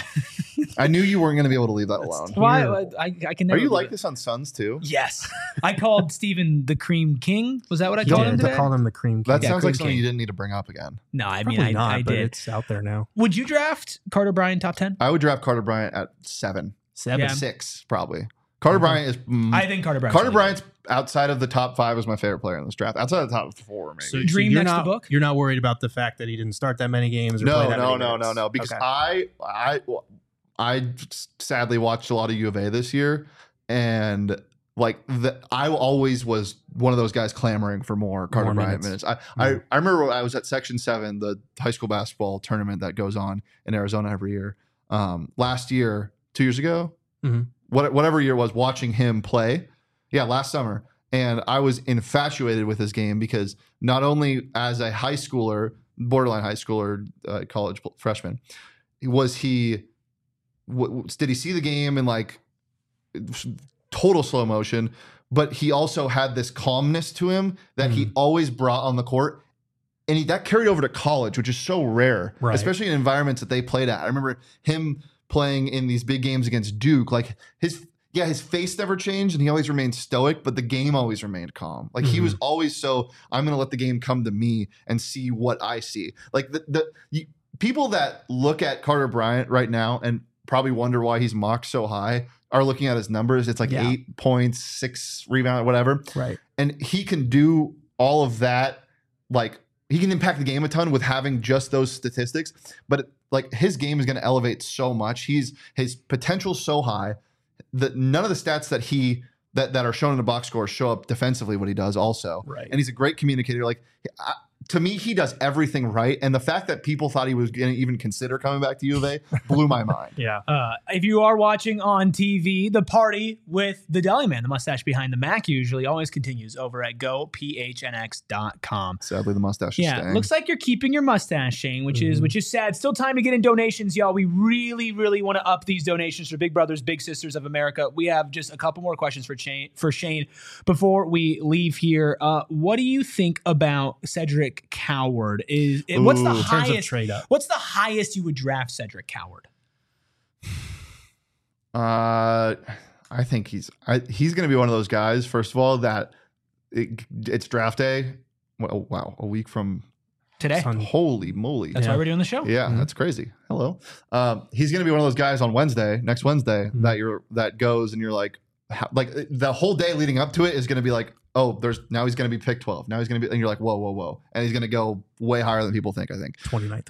I knew you weren't going to be able to leave that That's alone. why Terrible. I, I can Are never. you believe like it. this on Suns too? Yes. I called Steven the Cream King. Was that what I He called did. him They today? called him the cream. That King. Yeah, sounds Cream like something King. you didn't need to bring up again. No, I Probably mean, I, not, I but did. it's out there now. Would you draft Carter Bryant top ten? I would draft Carter Bryant at seven, Seven. Yeah. six probably. Carter Okay. Bryant is. mm, I think Carter Bryant. Carter Bryant's outside of the top five was my favorite player in this draft. Outside of the top four, maybe. So, Dream you're next to not, book? You're not worried about the fact that he didn't start that many games or play no, that no, many no, no, minutes? no. Because Okay. I, I, I sadly watched a lot of U of A this year, and like the, I always was one of those guys clamoring for more Carter More Bryant minutes. minutes. I, I, I remember I was at Section Seven, the high school basketball tournament that goes on in Arizona every year. Um, last year, two years ago, Mhm. what, whatever year it was, watching him play. Yeah, last summer. And I was infatuated with his game because not only as a high schooler, borderline high schooler, uh, college freshman, was he, w- did he see the game in like total slow motion, but he also had this calmness to him that he Mhm. always brought on the court. And he, that carried over to college, which is so rare, Right. especially in environments that they played at. I remember him playing in these big games against Duke. Like his, yeah, his face never changed and he always remained stoic, but the game always remained calm. Like he Mhm. was always so, I'm going to let the game come to me and see what I see. Like the, the you, people that look at Carter Bryant right now and probably wonder why he's mocked so high are looking at his numbers. It's like Yeah. eight points, six rebound, whatever. Right. And he can do all of that. Like he can impact the game a ton with having just those statistics, but like his game is going to elevate so much. He's his potential so high that none of the stats that he that that are shown in the box score show up defensively what he does also. Right. And he's a great communicator. Like I, to me, he does everything right. And the fact that people thought he was going to even consider coming back to U of A blew my mind. Yeah. Uh, if you are watching on T V, the party with the deli man, the mustache behind the Mac, usually always continues over at go p h n x dot com. Sadly, the mustache is Yeah, staying. looks like you're keeping your mustache, Shane, which is Mhm. which is sad. Still time to get in donations, y'all. We really, really want to up these donations for Big Brothers, Big Sisters of America. We have just a couple more questions for Shane. For Shane, before we leave here, uh, what do you think about Cedric Coward? Is it, what's the Ooh. In terms of highest trade up. What's the highest you would draft Cedric Coward? Uh, I think he's I, he's going to be one of those guys. First of all, that it, it's draft day. Well, wow, a week from Today. Sun- holy moly! That's Yeah. why we're doing the show. Yeah, Mhm. that's crazy. Hello. Um, he's going to be one of those guys on Wednesday, next Wednesday, Mhm. that you're that goes and you're like, how, like the whole day leading up to it is going to be like, oh, there's now he's going to be pick twelve. Now he's going to be, and you're like, whoa, whoa, whoa, and he's going to go way higher than people think. I think. twenty-ninth.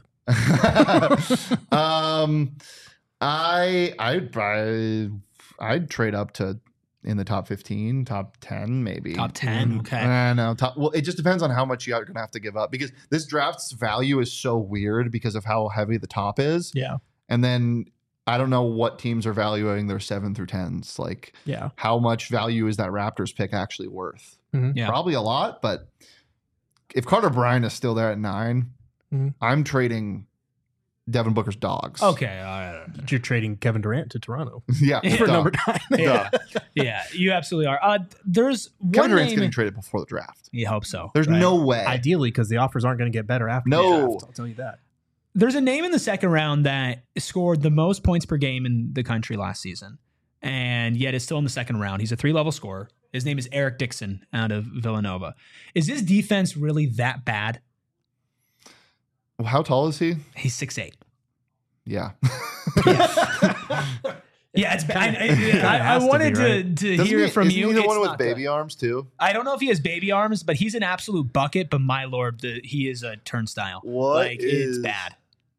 um, I I'd I, I'd trade up to in the top fifteen, top ten, maybe Top ten. Okay. I know. Top, well, it just depends on how much you're going to have to give up because this draft's value is so weird because of how heavy the top is. Yeah. And then I don't know what teams are valuing their seven through tens. Like, Yeah. how much value is that Raptors pick actually worth? Yeah. Probably a lot, but if Carter Bryant is still there at nine, Mhm. I'm trading Devin Booker's dogs. Okay. All right. You're trading Kevin Durant to Toronto Yeah. Yeah. for duh. number nine. Duh. Yeah, you absolutely are. Uh, there's Kevin one Durant's name. getting traded before the draft. You hope so. There's right? no way. Ideally, because the offers aren't going to get better after No. the draft. I'll tell you that. There's a name in the second round that scored the most points per game in the country last season, and yet is still in the second round. He's a three-level scorer. His name is Eric Dixon out of Villanova. Is his defense really that bad? How tall is he? He's six eight. Yeah. Yeah, it's bad. I, I, Kinda I, I has to wanted be, to, right? to Doesn't hear he- it from isn't you. he the It's one with not baby good. arms too? I don't know if he has baby arms, but he's an absolute bucket. But my lord, the, he is a turnstile. What like it's is- bad.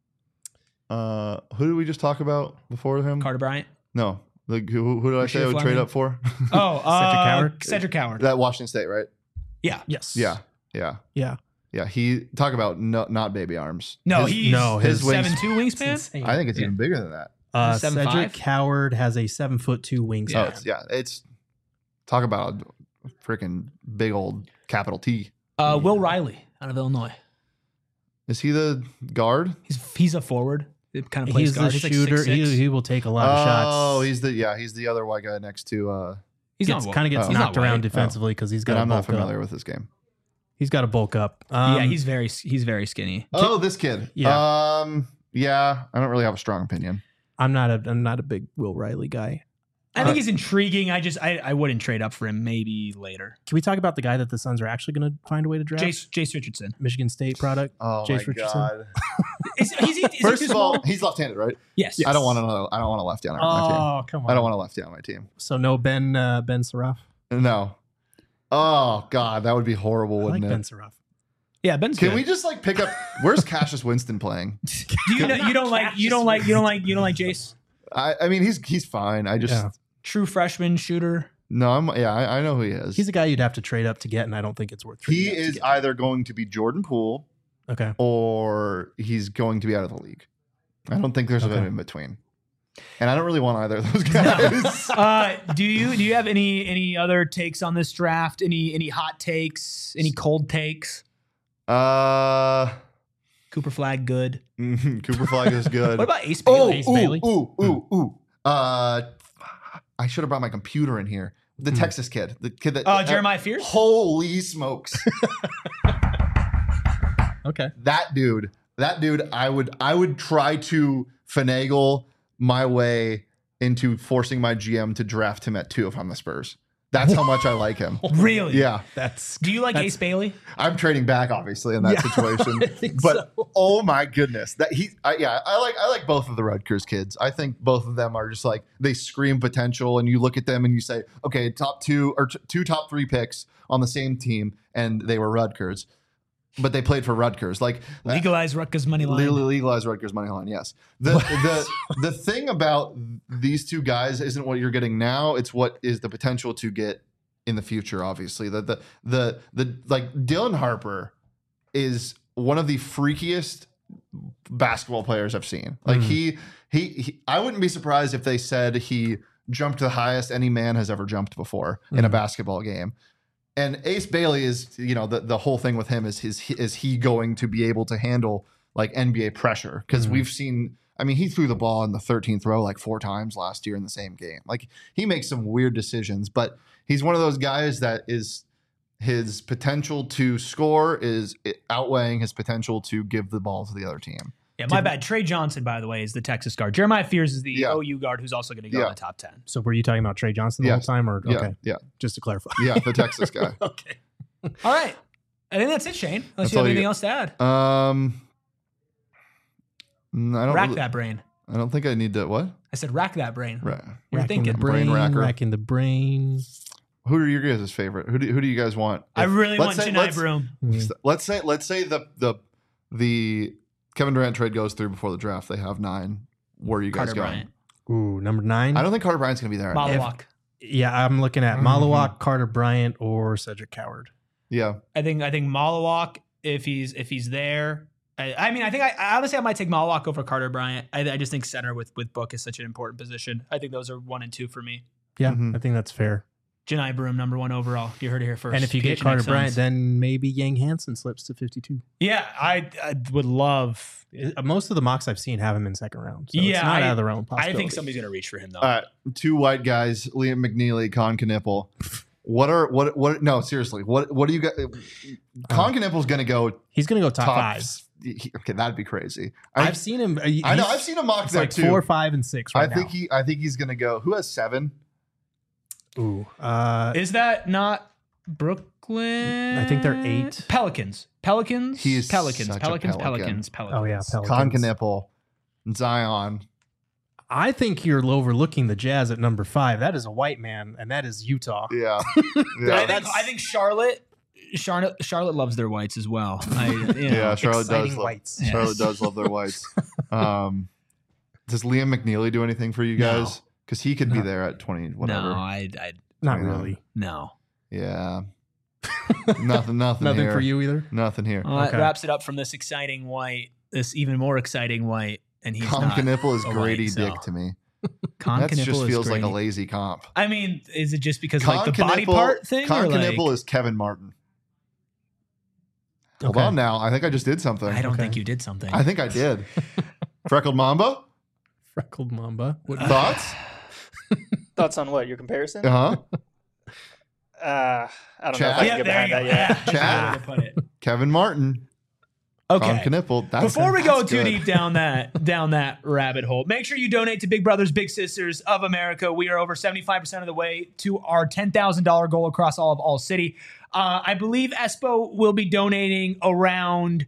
Uh, who did we just talk about before him? Carter Bryant. No, like who, who did I say I would Rasheed trade Fleming? up for? Oh, uh, Cedric Howard? Cedric Howard. That Washington State, right? Yeah. Yes. Yeah, yeah, Yeah. yeah. He talk about no, not baby arms. No, His- he's no, his wings- seven two It's wingspan. insane. I think it's Yeah. even bigger than that. Uh, Seven Cedric five? Howard has a seven foot two wingspan. Oh, it's, yeah. It's talk about a freaking big old capital T. Uh, Will Riley out of Illinois. Is he the guard? He's he's a forward. It kind of plays He's guard. the He's like shooter. six, six. he, he will take a lot of shots. Oh, he's the yeah. He's the other white guy next to. uh He's gets, not kind of gets oh. He's knocked not around white. defensively because he's got And to I'm not bulk familiar up. with this game. He's got to bulk up. Um, yeah, he's very he's very skinny. Oh, this kid. Yeah. Um. Yeah. I don't really have a strong opinion. I'm not a I'm not a big Will Riley guy. I think he's intriguing. I just I, I wouldn't trade up for him. Maybe later. Can we talk about the guy that the Suns are actually going to find a way to draft? Jace Jace Richardson. Michigan State product. Oh Jace my Richardson? god. Is, is he, is he First too of all, small? he's left-handed, right? Yes. I don't want to know. I don't want a lefty on my team. Oh, come on. I don't want a lefty on my team. So no Ben uh, Ben Saraf. No. Oh God, that would be horrible, I like wouldn't Ben it? Saraf. Yeah, Ben's Can good. we just like pick up? Where's Cassius Winston playing? Do you know, you don't like you don't like you don't like you don't like Jace? I, I mean, he's he's fine. I just Yeah. True freshman shooter. no. I'm yeah. I, I know who he is. He's a guy you'd have to trade up to get, and I don't think it's worth. trading he up to is get. either going to be Jordan Poole Okay. or he's going to be out of the league. I don't think there's Okay. a in between. And I don't really want either of those guys. Uh, do you do you have any any other takes on this draft? Any any hot takes? Any cold takes? uh, Cooper Flag good. mhm, Cooper Flag is good. What about Ace Oh, Bailey? Ace ooh, Bailey? ooh, ooh, ooh. Uh, I should have brought my computer in here. The Hmm. Texas kid, the kid that. Uh, Jeremiah Fears. Holy smokes! Okay. that dude, that dude. I would, I would try to finagle my way into forcing my G M to draft him at two if I'm the Spurs. That's how much I like him. Really? Yeah, That's. Do you like That's- Ace Bailey? I'm trading back obviously in that Yeah, situation. I think But so. oh my goodness, that he, I, yeah, I like, I like both of the Rutgers kids. I think both of them are just like they scream potential, and you look at them and you say, okay, top two or t- two top three picks on the same team, and they were Rutgers, but they played for Rutgers. Like Legalize Rutgers money line. legally legalized Rutgers money line. Yes. The the the thing about these two guys isn't what you're getting now. It's what is the potential to get in the future. Obviously, the the the the like Dylan Harper is one of the freakiest basketball players I've seen. Like Mm. he, he he I wouldn't be surprised if they said he jumped the highest any man has ever jumped before in a Mm. basketball game. And Ace Bailey is, you know, the, the whole thing with him is his is he going to be able to handle like N B A pressure? Because Mhm. we've seen, I mean, he threw the ball in the thirteenth row like four times last year in the same game. Like he makes some weird decisions, but he's one of those guys that is his potential to score is outweighing his potential to give the ball to the other team. Yeah, my bad. Trey Johnson, by the way, is the Texas guard. Jeremiah Fears is the Yeah. O U guard who's also going to go Yeah. in the top ten. So were you talking about Trey Johnson the Yeah. whole time, or Yeah, okay? yeah, Just to clarify. yeah. The Texas guy. Okay. All right. I think that's it, Shane. Unless That's you have all you anything got. else to add. Um, mm, I don't. Rack really- that brain. I don't think I need to. What? I said rack that brain. Right. You're Racking thinking. the brain, Brain racker. racking the brain. Who are your guys' favorite? Who do Who do you guys want? I If- really let's want say- Janai let's- Broom. Mm. Let's say let's say the the the Kevin Durant trade goes through before the draft. They have nine. Where are you guys Carter going? Bryant. Ooh, number nine. I don't think Carter Bryant's going to be there. Malawak. Yeah, I'm looking at Mhm. Malawak, Carter Bryant, or Cedric Coward. Yeah. I think I think Malawak, if he's if he's there. I, I mean, I think I, I honestly I might take Malawak over Carter Bryant. I, I just think center with with Book is such an important position. I think those are one and two for me. Yeah, Mhm. I think that's fair. Janai Broom, number one overall. You heard it here first. And if you P get H N X Carter Suns. Bryant, then maybe Yang Hansen slips to fifty-two. yeah, I, I would love. Uh, Most of the mocks I've seen have him in second round. So Yeah, it's not I- out of the realm of I possibility. think somebody's gonna reach for him though. All right. Two white guys, Liam McNeely, Con Knipple. What are what what? No, seriously. What what do you got? Con Knipple's going to go He's going to go top, top. five. he- okay, that'd be crazy. I, I've seen him. uh, I know. he's- I've seen him mocked It's there like too. four, five, and six I right think now. he. I think he's going to go. Who has seven? Ooh. Uh, Is that not Brooklyn? I think they're eight. Pelicans. Pelicans. He is Pelicans. such a Pelicans. Pelican. Pelicans. Pelicans. oh, yeah. Con Pelicans. Knipple, Zion. I think you're overlooking the Jazz at number five. That is a white man, and that is Utah. Yeah. I Yeah. think, I think Charlotte, Charlotte, Charlotte loves their whites as well. I, you know. Yeah, Charlotte Exciting does. Love, whites. Yeah. Charlotte does love their whites. Um, does Liam McNeely do anything for you No. guys? Because he could be No. there at twenty, whatever. No, I, I, Not Yeah. really. no. Yeah. nothing. Nothing. Nothing here. for you either. Nothing here. Well, that Okay. wraps it up from this exciting white, this even more exciting white, and he's Con not. Knipple is a Grady white, so. Dick to me. Con That Knipple just is feels like a Grady. lazy comp. I mean, is it just because Con like the body Knipple- part thing? Con or like, Knipple is Kevin Martin. Hold Okay. on now. I think I just did something. I don't Okay. think you did something. I think I did. Freckled Mamba? Freckled Mamba. What, Thoughts? Thoughts on what? Your comparison? Uh huh. Uh, I don't know if Chad? I yeah, can get there behind you that go. yet. Yeah, Chad? that's a good way to put it. Kevin Martin. Okay. Con Knipple. That's, Before we go that's too good. deep down that down that rabbit hole, make sure you donate to Big Brothers Big Sisters of America. We are over seventy-five percent of the way to our ten thousand dollars goal across all of All City. Uh, I believe Espo will be donating around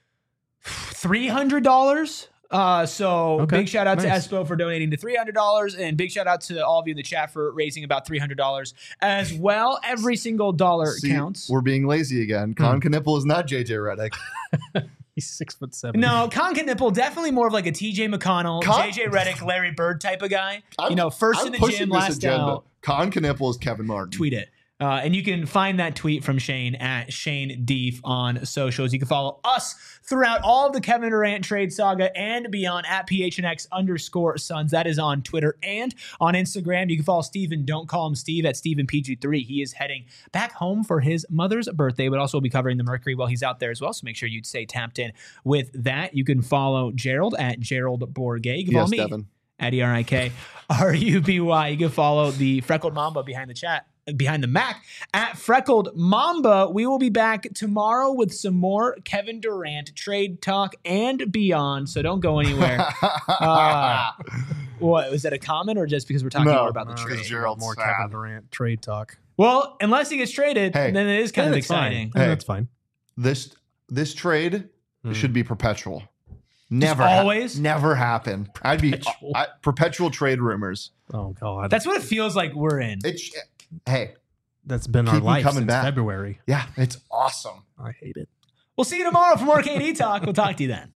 three hundred dollars. Uh, so Okay, big shout out nice. to Espo for donating to three hundred dollars, and big shout out to all of you in the chat for raising about three hundred dollars as well. Every single dollar See, counts. We're being lazy again. Con Knipple is not J J Redick. He's six foot seven. No, Con Knipple definitely more of like a T J McConnell, Con- J J Redick, Larry Bird type of guy. I'm- you know, 1st I'm in the pushing gym, this last agenda. out. Con Knipple is Kevin Martin. Tweet it. Uh, and you can find that tweet from Shane at Shane Deef on socials. You can follow us throughout all of the Kevin Durant trade saga and beyond at P H N X underscore Suns. That is on Twitter and on Instagram. You can follow Steven, don't call him Steve, at Steven P G three. He is heading back home for his mother's birthday, but also will be covering the Mercury while he's out there as well. So make sure you stay tapped in with that. You can follow Gerald at Gerald Bourget. You can follow Yes, me Devin. at E R I K R U B Y. You can follow the Freckled Mamba behind the chat, behind the Mac at Freckled Mamba. We will be back tomorrow with some more Kevin Durant trade talk and beyond. So don't go anywhere. Uh, what was that, a comment or just because we're talking No, more about the no, trade? it's Gerald's more sad. Kevin Durant trade talk. Well, unless he gets traded, Hey. then it is kind Yeah, of that's fine. exciting. Yeah, Hey. that's fine. This this trade Hmm. should be perpetual. Never, always? never happen. I'd be Perpetual. I, perpetual trade rumors. Oh God, That's what it feels like we're in. It's hey, that's been keep our 'em life coming since back. February. yeah, it's awesome. I hate it. We'll see you tomorrow for more K D talk. We'll talk to you then.